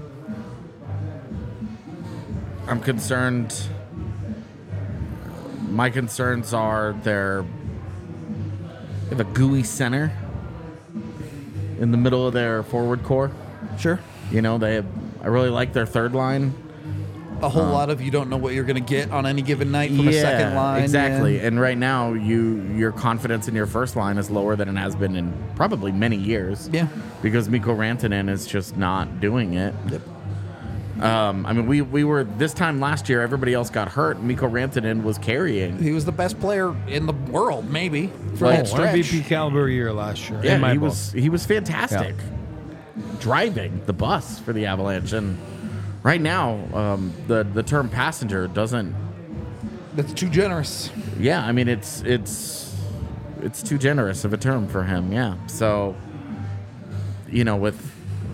I'm concerned. My concerns are their have a gooey center in the middle of their forward core. Sure. You know, they have, I really like their third line. A whole um, lot of you don't know what you're going to get on any given night from yeah, a second line. Exactly. Yeah. And right now, you your confidence in your first line is lower than it has been in probably many years. Yeah. Because Mikko Rantanen is just not doing it. Yep. Um, I mean, we, we were, this time last year, everybody else got hurt. Mikko Rantanen was carrying. He was the best player in the world, maybe, for oh, that stretch. M V P caliber year last year. Yeah, in my he book. was he was fantastic. Yeah. Driving the bus for the Avalanche. And right now, um, the, the term passenger doesn't... That's too generous. Yeah, I mean, it's it's it's too generous of a term for him, yeah. So, you know, with...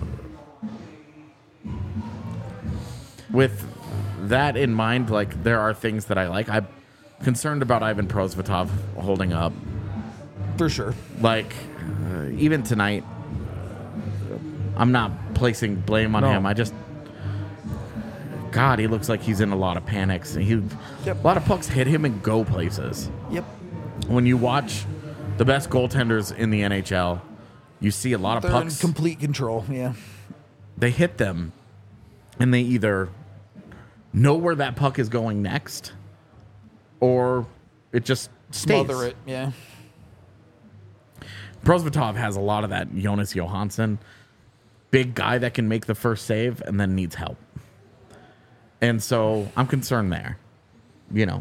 With that in mind, like, there are things that I like. I'm concerned about Ivan Prosvetov holding up. For sure. Like, uh, even tonight, I'm not placing blame on No. him. I just... God, he looks like he's in a lot of panics. He, Yep. A lot of pucks hit him and go places. Yep. When you watch the best goaltenders in the N H L, you see a lot of They're pucks. in complete control, yeah. They hit them, and they either know where that puck is going next, or it just stays. Smother it, yeah. Prosvetov has a lot of that. Jonas Johansson, big guy that can make the first save and then needs help. And so I'm concerned there. You know,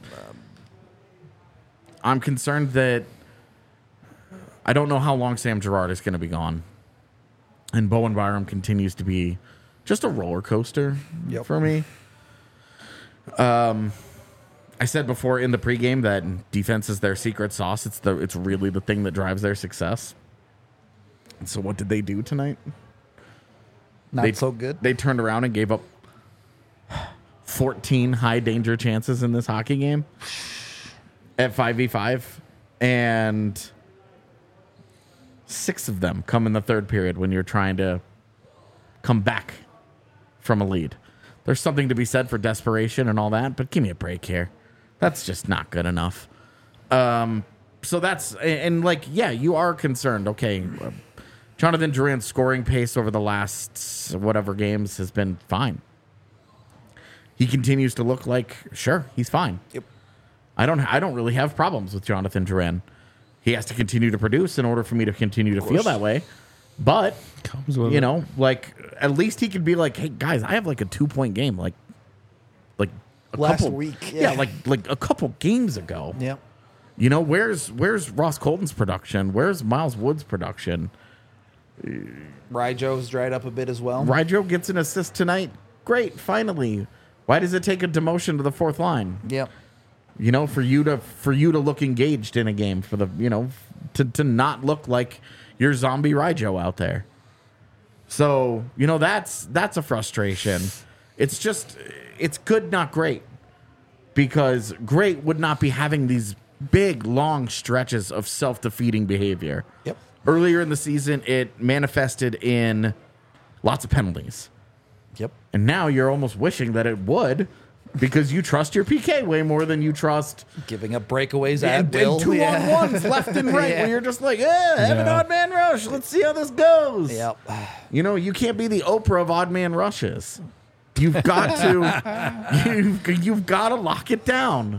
I'm concerned that I don't know how long Sam Girard is going to be gone. And Bowen Byram continues to be just a roller coaster Yep. for me. Um, I said before in the pregame that defense is their secret sauce. It's the it's really the thing that drives their success. And so what did they do tonight? Not they, so good. They turned around and gave up fourteen high danger chances in this hockey game at five v five, and six of them come in the third period when you're trying to come back from a lead. There's something to be said for desperation and all that, but give me a break here. That's just not good enough. Um, so that's, and, and like, yeah, you are concerned. Okay, uh, Jonathan Drouin's scoring pace over the last whatever games has been fine. He continues to look like, sure, he's fine. Yep. I don't I don't really have problems with Jonathan Drouin. He has to continue to produce in order for me to continue to feel that way. But, Comes with you it. know, like, at least he could be like, hey, guys, I have like a two-point game. Like, like a Last couple, week, Yeah. yeah. like like a couple games ago. Yep. You know, where's where's Ross Colton's production? Where's Miles Wood's production? Ryjo's dried up a bit as well. Ryjo gets an assist tonight. Great, finally. Why does it take a demotion to the fourth line? Yep. You know, for you to for you to look engaged in a game, for the you know to to not look like you're zombie Ryjo out there. So you know that's that's a frustration. It's just it's good, not great, because great would not be having these big long stretches of self-defeating behavior. Yep. Earlier in the season, it manifested in lots of penalties. Yep. And now you're almost wishing that it would, because you trust your P K way more than you trust Giving up breakaways at and, will. and two yeah. on ones left and right, Yeah. where you're just like, eh, have an Yeah. odd man rush. Let's see how this goes. Yep. You know, you can't be the Oprah of odd man rushes. You've got to, you've, you've got to lock it down.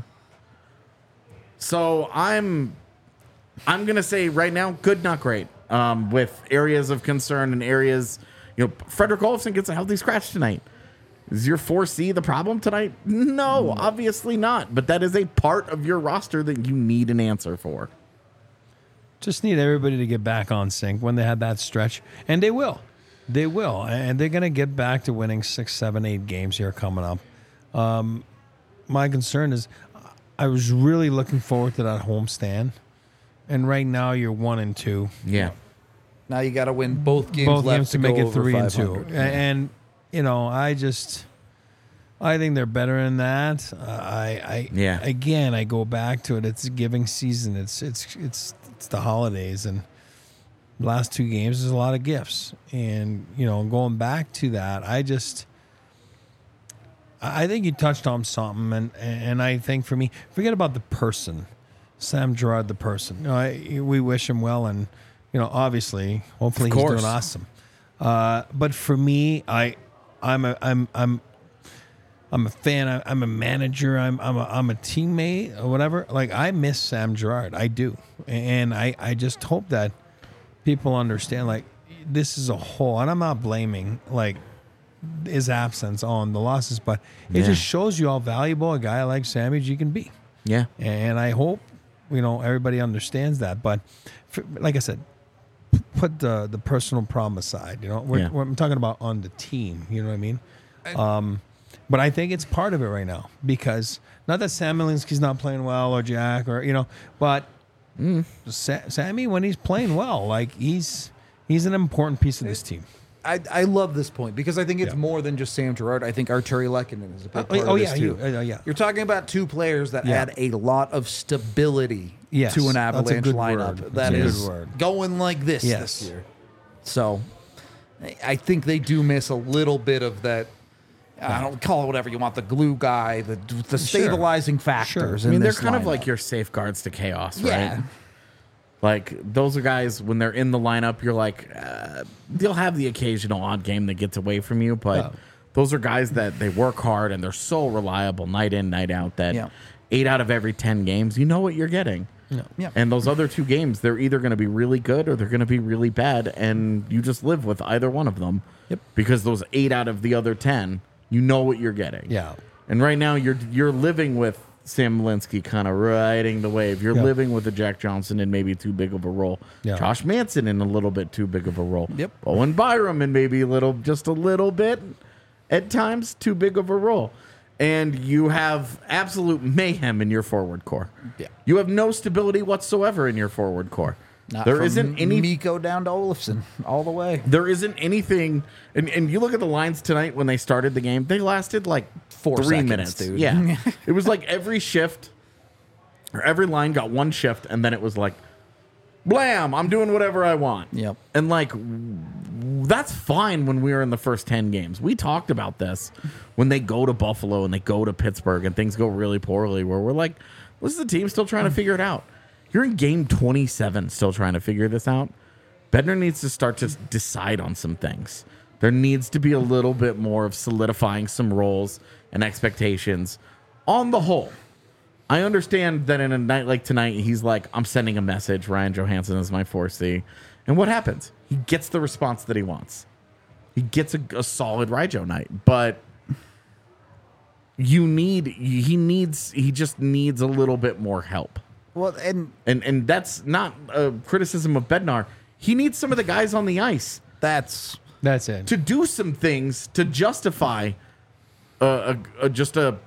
So I'm, I'm gonna say right now, good, not great. Um, with areas of concern and areas, you know, Frederick Olofsson gets a healthy scratch tonight. Is your four C the problem tonight? No, obviously not. But that is a part of your roster that you need an answer for. Just need everybody to get back on sync when they have that stretch, and they will. They will, and they're going to get back to winning six, seven, eight games here coming up. Um, my concern is, I was really looking forward to that homestand, and right now you're one and two, Yeah. Now you got to win both games both left games to to make go it over three and two, five hundred. A- and you know, I just, I think they're better than that. Uh, I, I, Yeah. Again, I go back to it. It's giving season. It's, it's, it's, it's the holidays, and last two games there's a lot of gifts, and you know, going back to that, I just, I think you touched on something, and and I think for me, forget about the person. Sam Girard, the person. You know, I, we wish him well, and you know, obviously, hopefully, he's doing awesome. Uh, but for me, I, I'm a, I'm, I'm, I'm a fan. I, I'm a manager. I'm, I'm a, I'm a teammate or whatever. Like I miss Sam Girard. I do, and I, I just hope that people understand. Like this is a whole, and I'm not blaming like his absence on the losses, but it Yeah. just shows you how valuable a guy like Sammy G can be. Yeah. And I hope, you know, everybody understands that. But for, like I said, p- put the the personal problem aside. You know, we're, Yeah. we're, I'm talking about on the team. You know what I mean? Um, but I think it's part of it right now because not that Sam Milinski's not playing well or Jack or you know, but Sa- Sammy when he's playing well, like he's he's an important piece of this team. I, I love this point because I think it's Yeah. more than just Sam Girard. I think Arturi Lehkonen is a big Oh, part oh, of this yeah, too. you- uh, yeah. You're talking about two players that Yeah. add a lot of stability Yes, to an that's a Avalanche good lineup. word. That That's a is good word. going like this Yes. this year. So I- I think they do miss a little bit of that. I don't call it whatever you want. The glue guy, the the stabilizing factors. Sure. I mean, in they're this kind of lineup. like your safeguards to chaos, right? Yeah. Like those are guys when they're in the lineup, you're like, uh, they'll have the occasional odd game that gets away from you, but Yeah. those are guys that they work hard and they're so reliable night in, night out that Yeah. eight out of every ten games, you know what you're getting. Yeah. And those other two games, they're either going to be really good or they're going to be really bad, and you just live with either one of them. Yep. Because those eight out of the other ten, you know what you're getting. Yeah. And right now, you're you're living with Sam Linsky kind of riding the wave. You're Yeah. living with a Jack Johnson in maybe too big of a role. Yeah. Josh Manson in a little bit too big of a role. Yep. Owen Byram in maybe a little, just a little bit, at times too big of a role. And you have absolute mayhem in your forward core. Yeah. You have no stability whatsoever in your forward core. Not There from isn't any Mikko down to Olofsson all the way. there isn't anything, and, and you look at the lines tonight when they started the game, they lasted like Four three seconds, minutes. dude. Yeah. It was like every shift, or every line got one shift, and then it was like, blam, I'm doing whatever I want. Yep. And like, that's fine when we were in the first ten games. We talked about this when they go to Buffalo and they go to Pittsburgh and things go really poorly, where we're like, this is the team still trying to figure it out. You're in game twenty-seven still trying to figure this out. Bednar needs to start to decide on some things. There needs to be a little bit more of solidifying some roles and expectations on the whole. I understand that in a night like tonight, he's like, I'm sending a message. Ryan Johansson is my four C. And what happens? He gets the response that he wants. He gets a, a solid Ryjo night. But you need, he needs, he just needs a little bit more help. Well, and And and that's not a criticism of Bednar. He needs some of the guys on the ice that's That's it. to do some things to justify uh, a, a, just a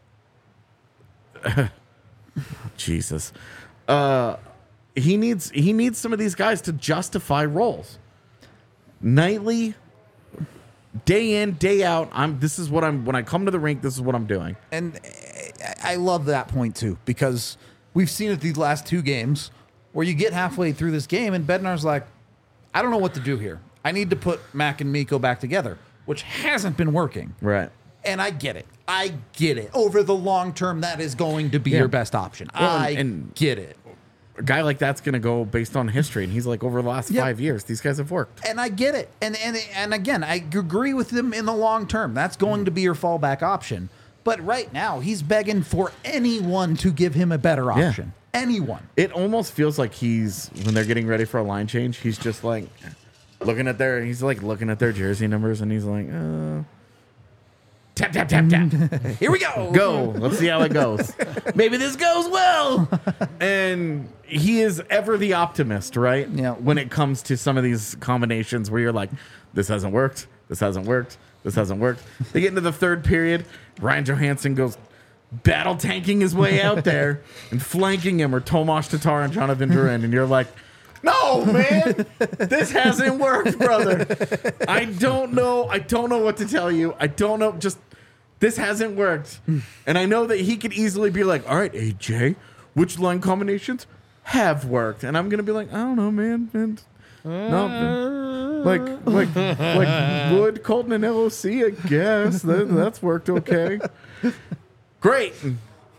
Jesus. Uh, he needs he needs some of these guys to justify roles. Nightly, day in, day out. I'm. This is what I'm. When I come to the rink, this is what I'm doing. and I- I love that point too because we've seen it these last two games where you get halfway through this game and Bednar's like, I don't know what to do here. I need to put Mac and Mikko back together, which hasn't been working. Right. And I get it. I get it. Over the long term, that is going to be Yeah. your best option. Well, I and- and- get it. A guy like that's going to go based on history, and he's like, over the last Yep. five years, these guys have worked. And I get it. And and and again, I agree with him in the long term. That's going to be your fallback option. But right now, he's begging for anyone to give him a better Yeah. option. Anyone. It almost feels like he's when they're getting ready for a line change. He's just like looking at their. He's like looking at their jersey numbers, and he's like, uh, tap tap tap tap. Here we go. Go. Let's see how it goes. Maybe this goes well. And he is ever the optimist, right? Yeah. When it comes to some of these combinations where you're like, this hasn't worked. This hasn't worked. This hasn't worked. They get into the third period. Ryan Johansson goes battle tanking his way out there and flanking him, or Tomas Tatar and Jonathan Duran. And you're like, no, man, this hasn't worked, brother. I don't know. I don't know what to tell you. I don't know. Just this hasn't worked. And I know that he could easily be like, all right, A J, which line combinations have worked? And I'm going to be like, I don't know, man. And no, like, like, like Wood, Colton, and L O C, I guess. That, that's worked okay. Great.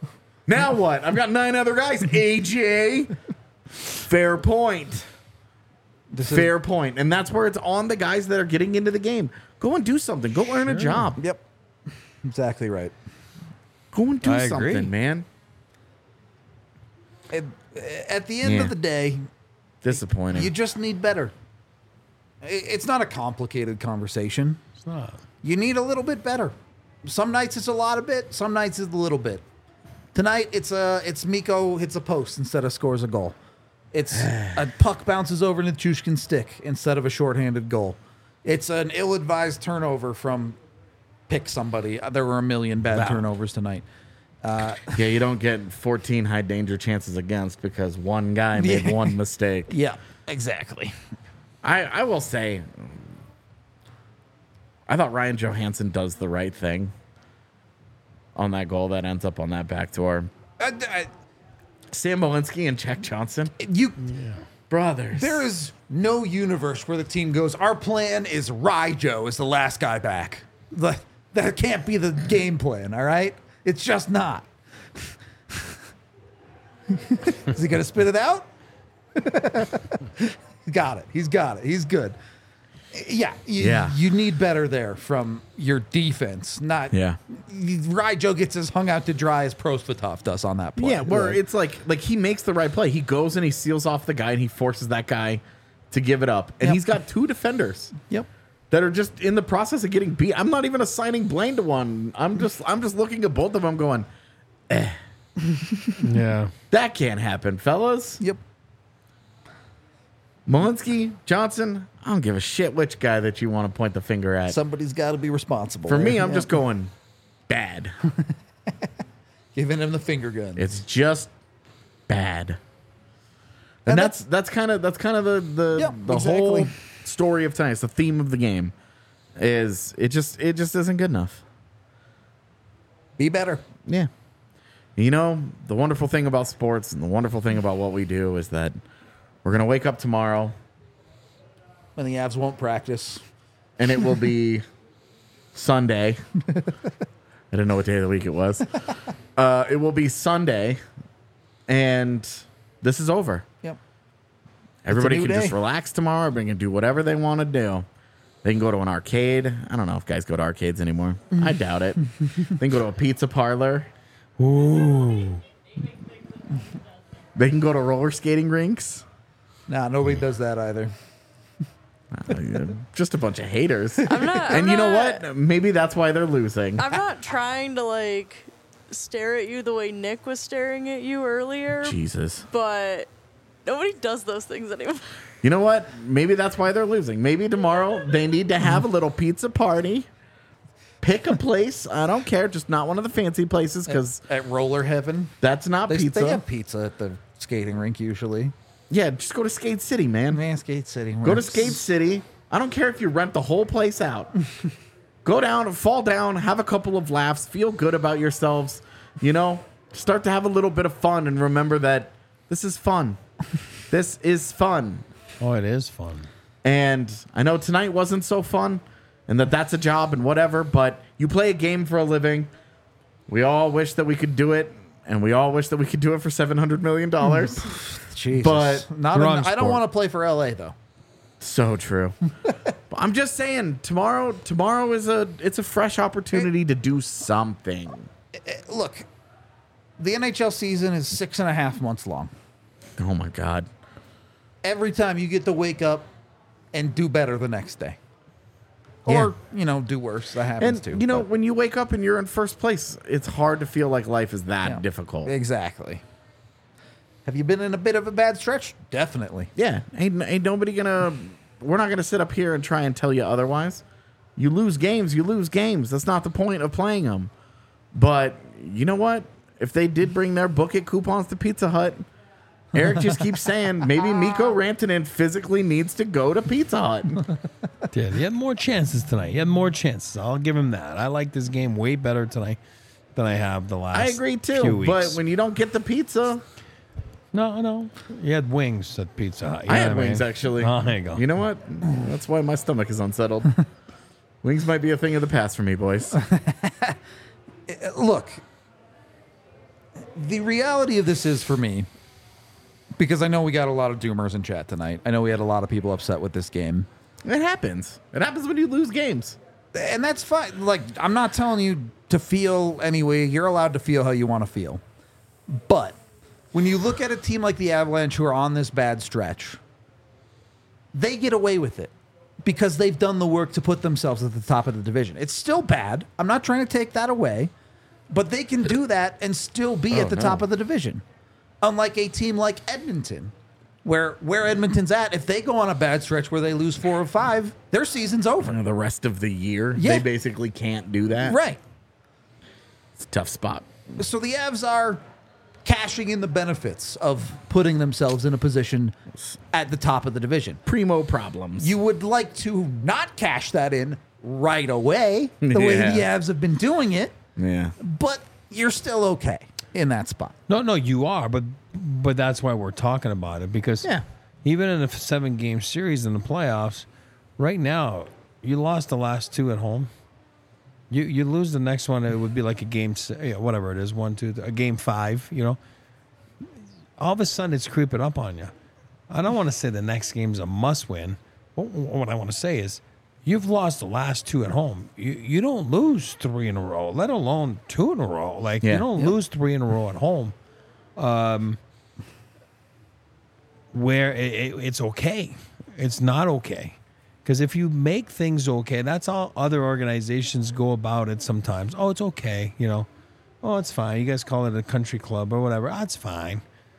Now what? I've got nine other guys. A J. Fair point. This is- Fair point. And that's where it's on the guys that are getting into the game. Go and do something. Go earn a job. Yep. Exactly right. Go and do I something, agree. man. At, at the end Yeah. of the day, Disappointing. you just need better. I- It's not a complicated conversation. It's not. You need a little bit better. Some nights it's a lot of bit. Some nights it's a little bit. Tonight it's a it's Miko hits a post instead of scores a goal. It's a puck bounces over Nichushkin's stick instead of a shorthanded goal. It's an ill-advised turnover from pick somebody. There were a million bad Wow. turnovers tonight. yeah, you don't get fourteen high danger chances against because one guy made Yeah. one mistake. Yeah, exactly. I, I will say, I thought Ryan Johansson does the right thing on that goal that ends up on that backdoor. Uh, uh, Sam Malinsky and Jack Johnson, you, brothers. there is no universe where the team goes, our plan is Ryjo is the last guy back. The, that can't be the game plan, all right? It's just not. Is he going to spit it out? Got it. He's got it. He's good. Yeah, you, Yeah. you need better there from your defense. Not Yeah. Ryjo gets his hung out to dry as Prosvetov does on that play. Yeah, where Like, it's like like he makes the right play. He goes and he seals off the guy and he forces that guy to give it up. And Yep. he's got two defenders Yep. that are just in the process of getting beat. I'm not even assigning blame to one. I'm just I'm just looking at both of them going, Yeah. that can't happen, fellas. Yep. Malinsky, Johnson, I don't give a shit which guy that you want to point the finger at. Somebody's got to be responsible. For me, there. I'm Yeah. just going bad. giving him the finger gun. It's just bad. And, And that's that's kind of that's kind of the the, Yeah, the exactly. whole story of tonight. It's the theme of the game. Is it just it just isn't good enough. Be better. Yeah. You know, the wonderful thing about sports and the wonderful thing about what we do is that we're gonna wake up tomorrow And the Avs won't practice. and it will be Sunday. I didn't know what day of the week it was. Uh, it will be Sunday, and this is over. Yep. Everybody new can just day. relax tomorrow. They can do whatever they want to do. They can go to an arcade. I don't know if guys go to arcades anymore. I doubt it. They can go to a pizza parlor. Ooh. They can go to roller skating rinks. Nah, nobody does that either. Uh, just a bunch of haters. I'm not. And I'm you know not- what? Maybe that's why they're losing. I'm not trying to like stare at you the way Nick was staring at you earlier, Jesus. but nobody does those things anymore. You know what? Maybe that's why they're losing. Maybe tomorrow they need to have a little pizza party. Pick a place. I don't care. Just not one of the fancy places because At Roller Heaven, that's not they, pizza. they have pizza at the skating rink usually. Yeah, just go to Skate City, man. Man, Skate City. Go to works. Skate City. I don't care if you rent the whole place out. Go down, fall down, have a couple of laughs, feel good about yourselves. You know, start to have a little bit of fun and remember that this is fun. This is fun. Oh, it is fun. And I know tonight wasn't so fun and that that's a job and whatever, but you play a game for a living. We all wish that we could do it, and we all wish that we could do it for seven hundred million dollars. Jesus. But not. wrong In, I don't sport. want to play for L A though. So true. But I'm just saying, tomorrow tomorrow is a it's a fresh opportunity to do something. Look, the N H L season is six and a half months long. Oh my God. Every time you get to wake up and do better the next day, or you know, do worse. That happens And too. you know, but- when you wake up and you're in first place, it's hard to feel like life is that Yeah. difficult. Exactly. Have you been in a bit of a bad stretch? Definitely. Yeah, ain't, ain't nobody gonna. We're not gonna sit up here and try and tell you otherwise. You lose games, you lose games. That's not the point of playing them. But you know what? If they did bring their book it coupons to Pizza Hut, Eric just keeps saying maybe Mikko Rantanen physically needs to go to Pizza Hut. Yeah, he had more chances tonight. He had more chances. I'll give him that. I like this game way better tonight than I have the last I agree few too. weeks. But when you don't get the pizza, No, no. He had wings at Pizza Hut. You I know had what mean? wings actually. Oh, there you go. You know what? That's why my stomach is unsettled. Wings might be a thing of the past for me, boys. Look, The reality of this is for me, because I know we got a lot of doomers in chat tonight. I know we had a lot of people upset with this game. It happens. It happens when you lose games. And that's fine. Like, I'm not telling you to feel any way. You're allowed to feel how you want to feel. But when you look at a team like the Avalanche who are on this bad stretch, they get away with it because they've done the work to put themselves at the top of the division. It's still bad. I'm not trying to take that away. But they can do that and still be Oh, at the no. top of the division. Unlike a team like Edmonton, where where Edmonton's at, if they go on a bad stretch where they lose four or five, their season's over. You know, the rest of the year, Yeah. they basically can't do that. Right. It's a tough spot. So the Avs are cashing in the benefits of putting themselves in a position at the top of the division. Primo problems. You would like to not cash that in right away, the way Yeah. the Avs have been doing it, yeah. but you're still okay in that spot. No, no, you are, but but that's why we're talking about it because Yeah. even in a seven game series in the playoffs, right now you lost the last two at home. You you lose the next one, it would be like a game, se- yeah, whatever it is, one, two, th- a game five. You know, all of a sudden it's creeping up on you. I don't want to say the next game's a must win. What, what I want to say is. You've lost the last two at home. You you don't lose three in a row, let alone two in a row. Like Yeah. you don't Yep. lose three in a row at home. Um, where it, it, it's okay, it's not okay. Because if you make things okay, that's how other organizations go about it. Sometimes, oh, it's okay, you know, oh, it's fine. You guys call it a country club or whatever. That's fine.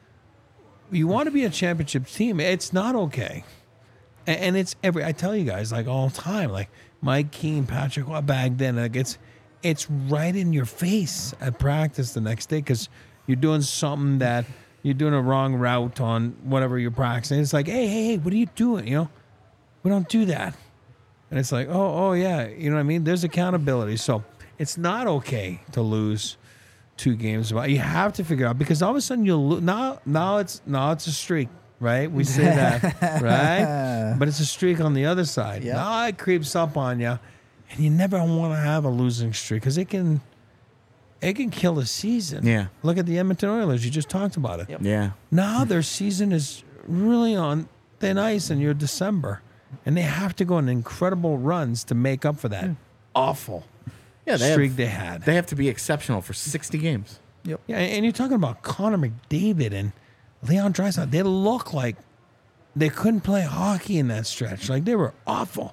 You want to be a championship team. It's not okay. And, and it's every, I tell you guys, like all the time, like Mike Keane, Patrick Bagden, like it's, it's right in your face at practice the next day because you're doing something that you're doing a wrong route on whatever you're practicing. It's like, hey, hey, hey, what are you doing? You know, we don't do that. And it's like, oh, oh yeah, you know what I mean? There's accountability. So it's not okay to lose two games. But you have to figure out because all of a sudden you'll lo- now now it's now it's a streak, right? We say that, right? But it's a streak on the other side. Yep. Now it creeps up on you, and you never want to have a losing streak because it can it can kill a season. Yeah. Look at the Edmonton Oilers. You just talked about it. Yep. Yeah. Now their season is really on thin ice, and you're December, and they have to go on incredible runs to make up for that awful Yeah, they streak have, they had. they have to be exceptional for sixty games. Yep. Yeah, and you're talking about Connor McDavid and Leon Draisaitl. They look like they couldn't play hockey in that stretch. Like they were awful.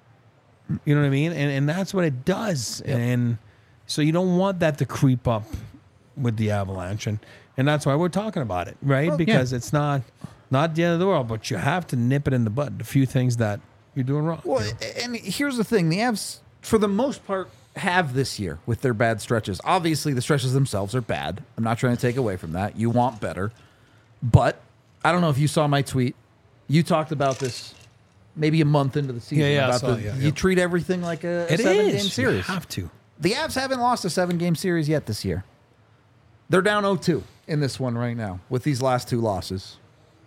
You know what I mean? And and that's what it does. Yep. And so you don't want that to creep up with the Avalanche, and and that's why we're talking about it, right? Well, because it's not not the end of the world, but you have to nip it in the bud. A few things that you're doing wrong. Well, you know? and here's the thing: the Avs, for the most part, have this year with their bad stretches. Obviously, the stretches themselves are bad. I'm not trying to take away from that. You want better, but I don't know if you saw my tweet. You talked about this maybe a month into the season. Yeah, yeah, I about saw the, it, yeah, you yeah. treat everything like a, a It seven is. game You series. have to. The Avs haven't lost a seven game series yet this year. They're down oh two in this one right now with these last two losses.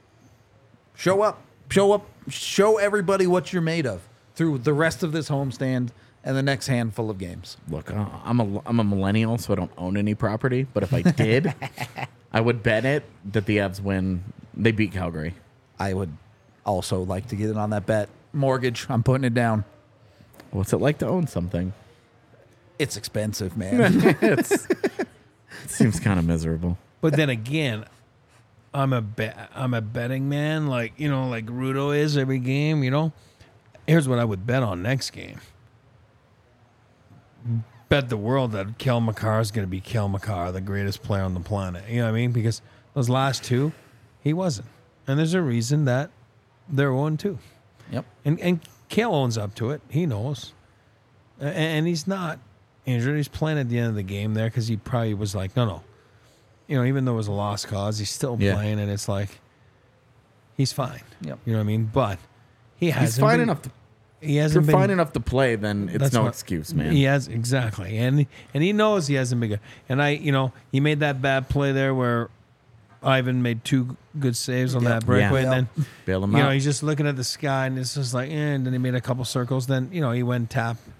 Show up. Show up. Show everybody what you're made of through the rest of this homestand and the next handful of games. Look, uh, I'm a I'm a millennial, so I don't own any property. But if I did, I would bet it that the Avs win. They beat Calgary. I would also like to get in on that bet. Mortgage, I'm putting it down. What's it like to own something? It's expensive, man. it's, it seems kind of miserable. But then again, I'm a bet. I'm a betting man, like you know, like Rudo is every game. You know, here's what I would bet on next game. Bet the world that Kel McCarr is going to be Kel McCarr, the greatest player on the planet. You know what I mean? Because those last two, he wasn't, and there's a reason that they're one two. Yep. And and Kel owns up to it. He knows, A- and he's not injured. He's playing at the end of the game there because he probably was like, no, no. You know, even though it was a lost cause, he's still Yeah. playing, and it's like he's fine. Yep. You know what I mean? But he has He's fine enough. To, He if you're hasn't been fine enough to play, then it's That's no what- excuse, man. He has exactly, and and he knows he hasn't been good. And I, you know, he made that bad play there where Ivan made two good saves on Yep. that breakaway, Yeah. and then Bail him you out. know he's just looking at the sky, and it's just like, eh, and then he made a couple circles. Then you know he went tap Yep.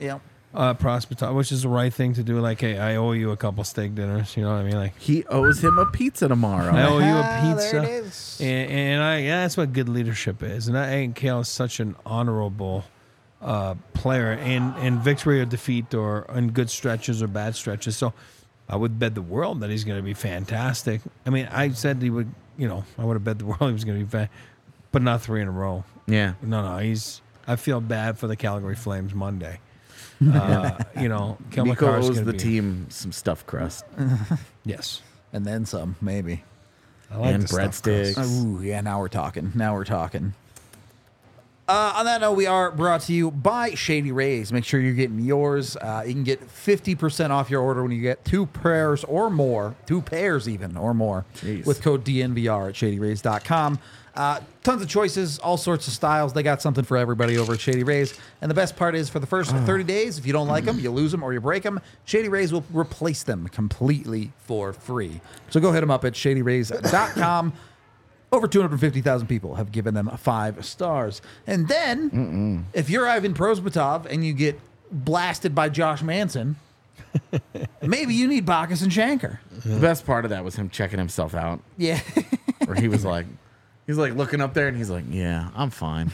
uh, Prosper, which is the right thing to do. Like, hey, I owe you a couple steak dinners. You know what I mean? Like, He owes him a pizza tomorrow. I owe you a Ah, pizza. there it is. And, and I, yeah, that's what good leadership is. And I think Kale is such an honorable uh, player in, in victory or defeat, or in good stretches or bad stretches. So I would bet the world that he's going to be fantastic. I mean, I said he would, you know, I would have bet the world he was going to be fan, but not three in a row. Yeah. No, no, he's. I feel bad for the Calgary Flames Monday. Uh, you know, Kel Nico McCarr's owes gonna the be- team some stuffed crust Yes, And then some, maybe. I like and the stuffed crust. breadsticks. Ooh, yeah, now we're talking. Now we're talking. Uh, on that note, we are brought to you by Shady Rays. Make sure you're getting yours. Uh, you can get fifty percent off your order when you get two pairs or more, two pairs even or more, Jeez. with code D N V R at shady rays dot com. Uh, tons of choices, all sorts of styles. They got something for everybody over at Shady Rays. And the best part is, for the first thirty days, if you don't like them, you lose them or you break them, Shady Rays will replace them completely for free. So go hit them up at shady rays dot com. Over two hundred fifty thousand people have given them five stars. And then, Mm-mm. if you're Ivan Prosvetov and you get blasted by Josh Manson, maybe you need Bacchus and Shanker. The best part of that was him checking himself out, Yeah. where he was like, he's like looking up there and he's like, yeah, I'm fine.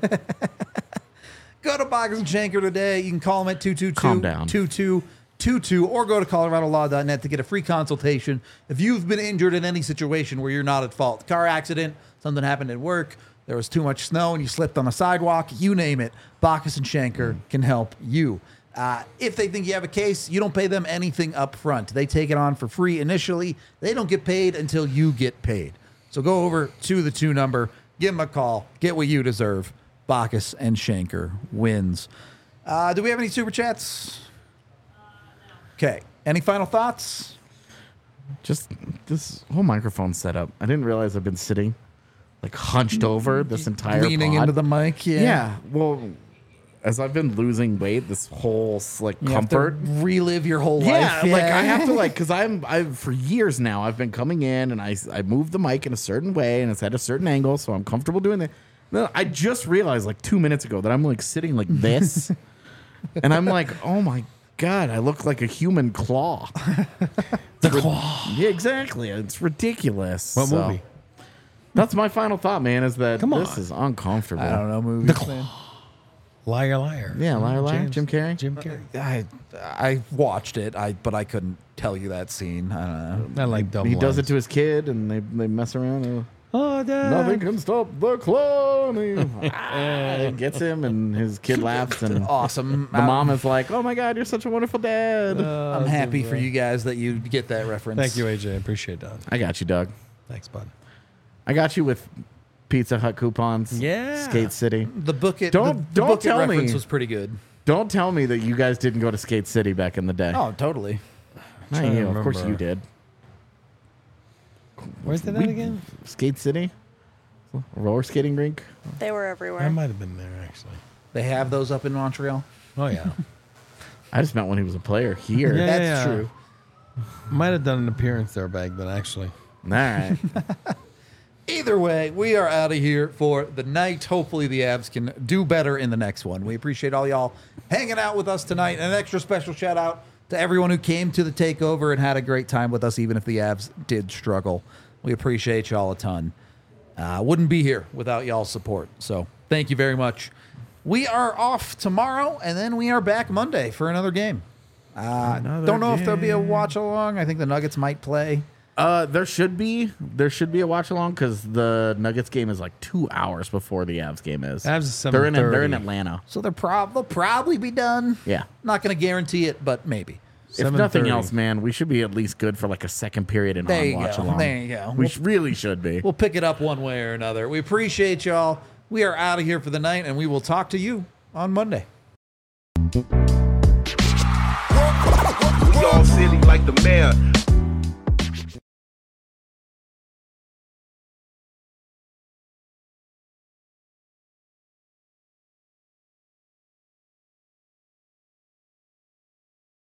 Go to Bacchus and Shanker today. You can call them at two two Calm two, down. two two two two or go to colorado law dot net to get a free consultation. If you've been injured in any situation where you're not at fault, car accident, something happened at work, there was too much snow and you slipped on a sidewalk, you name it, Bacchus and Shanker can help you. Uh, if they think you have a case, you don't pay them anything up front. They take it on for free initially. They don't get paid until you get paid. So go over to the two number, give them a call, get what you deserve. Bacchus and Shanker wins. Uh, do we have any super chats? Okay. Any final thoughts? Just this whole microphone setup. I didn't realize I've been sitting like hunched over this entire Leaning pod. into the mic. Yeah. Yeah. Well, as I've been losing weight, this whole like You have to comfort. relive your whole Yeah, life. like I have to like because I'm I for years now I've been coming in and I I move the mic in a certain way and it's at a certain angle, so I'm comfortable doing that. No, I just realized like two minutes ago that I'm like sitting like this, and I'm like, oh my god, I look like a human claw. The claw. Yeah, exactly. It's ridiculous. What So, movie? That's my final thought, man. Is that Come this on. is uncomfortable. I don't know movies. The Claw. Liar, liar. Yeah, Liar, Liar, James- Jim Carrey? Jim Carrey. I I watched it, I but I couldn't tell you that scene. I don't know. I like double He does it lines. to his kid, and they they mess around. and, Oh, Dad. Nothing can stop the clone. He ah, gets him, and his kid laughs, and Awesome. the mom is like, "Oh my god, you're such a wonderful dad." I'm happy for you guys that you get that reference. Thank you, A J. I appreciate that. I got you, Doug. Thanks, bud. I got you with Pizza Hut coupons. Yeah. Skate City. The book it Don't- the, the don't book it tell reference me. was pretty good. Don't tell me that you guys didn't go to Skate City back in the day. Oh, totally. Not trying to you. Of course remember. you did. Where's that We- at again? Skate City? A roller skating rink? They were I everywhere. might have been there, actually. They have those up in Montreal. Oh, yeah. I just meant when he was a player here. Yeah. That's true. Might have done an appearance there back then, actually. All right. Either way, we are out of here for the night. Hopefully, the Avs can do better in the next one. We appreciate all y'all hanging out with us tonight. And an extra special shout out to everyone who came to the takeover and had a great time with us, even if the Avs did struggle. We appreciate y'all a ton. Uh, wouldn't be here without y'all's support. So thank you very much. We are off tomorrow, and then we are back Monday for another game. Uh, Another don't know if there'll be a game. watch along. I think the Nuggets might play. Uh, there should be there should be a watch along because the Nuggets game is like two hours before the Avs game is. Avs is they're in they're in seven thirty. Atlanta. So they're prob- they'll probably be done. Yeah. Not going to guarantee it, but maybe. If nothing seven thirty. else, man, we should be at least good for like a second period and There on you watch go. along. There you go. We We'll- sh- really should be. We'll pick it up one way or another. We appreciate y'all. We are out of here for the night, and we will talk to you on Monday. We all silly like the mayor.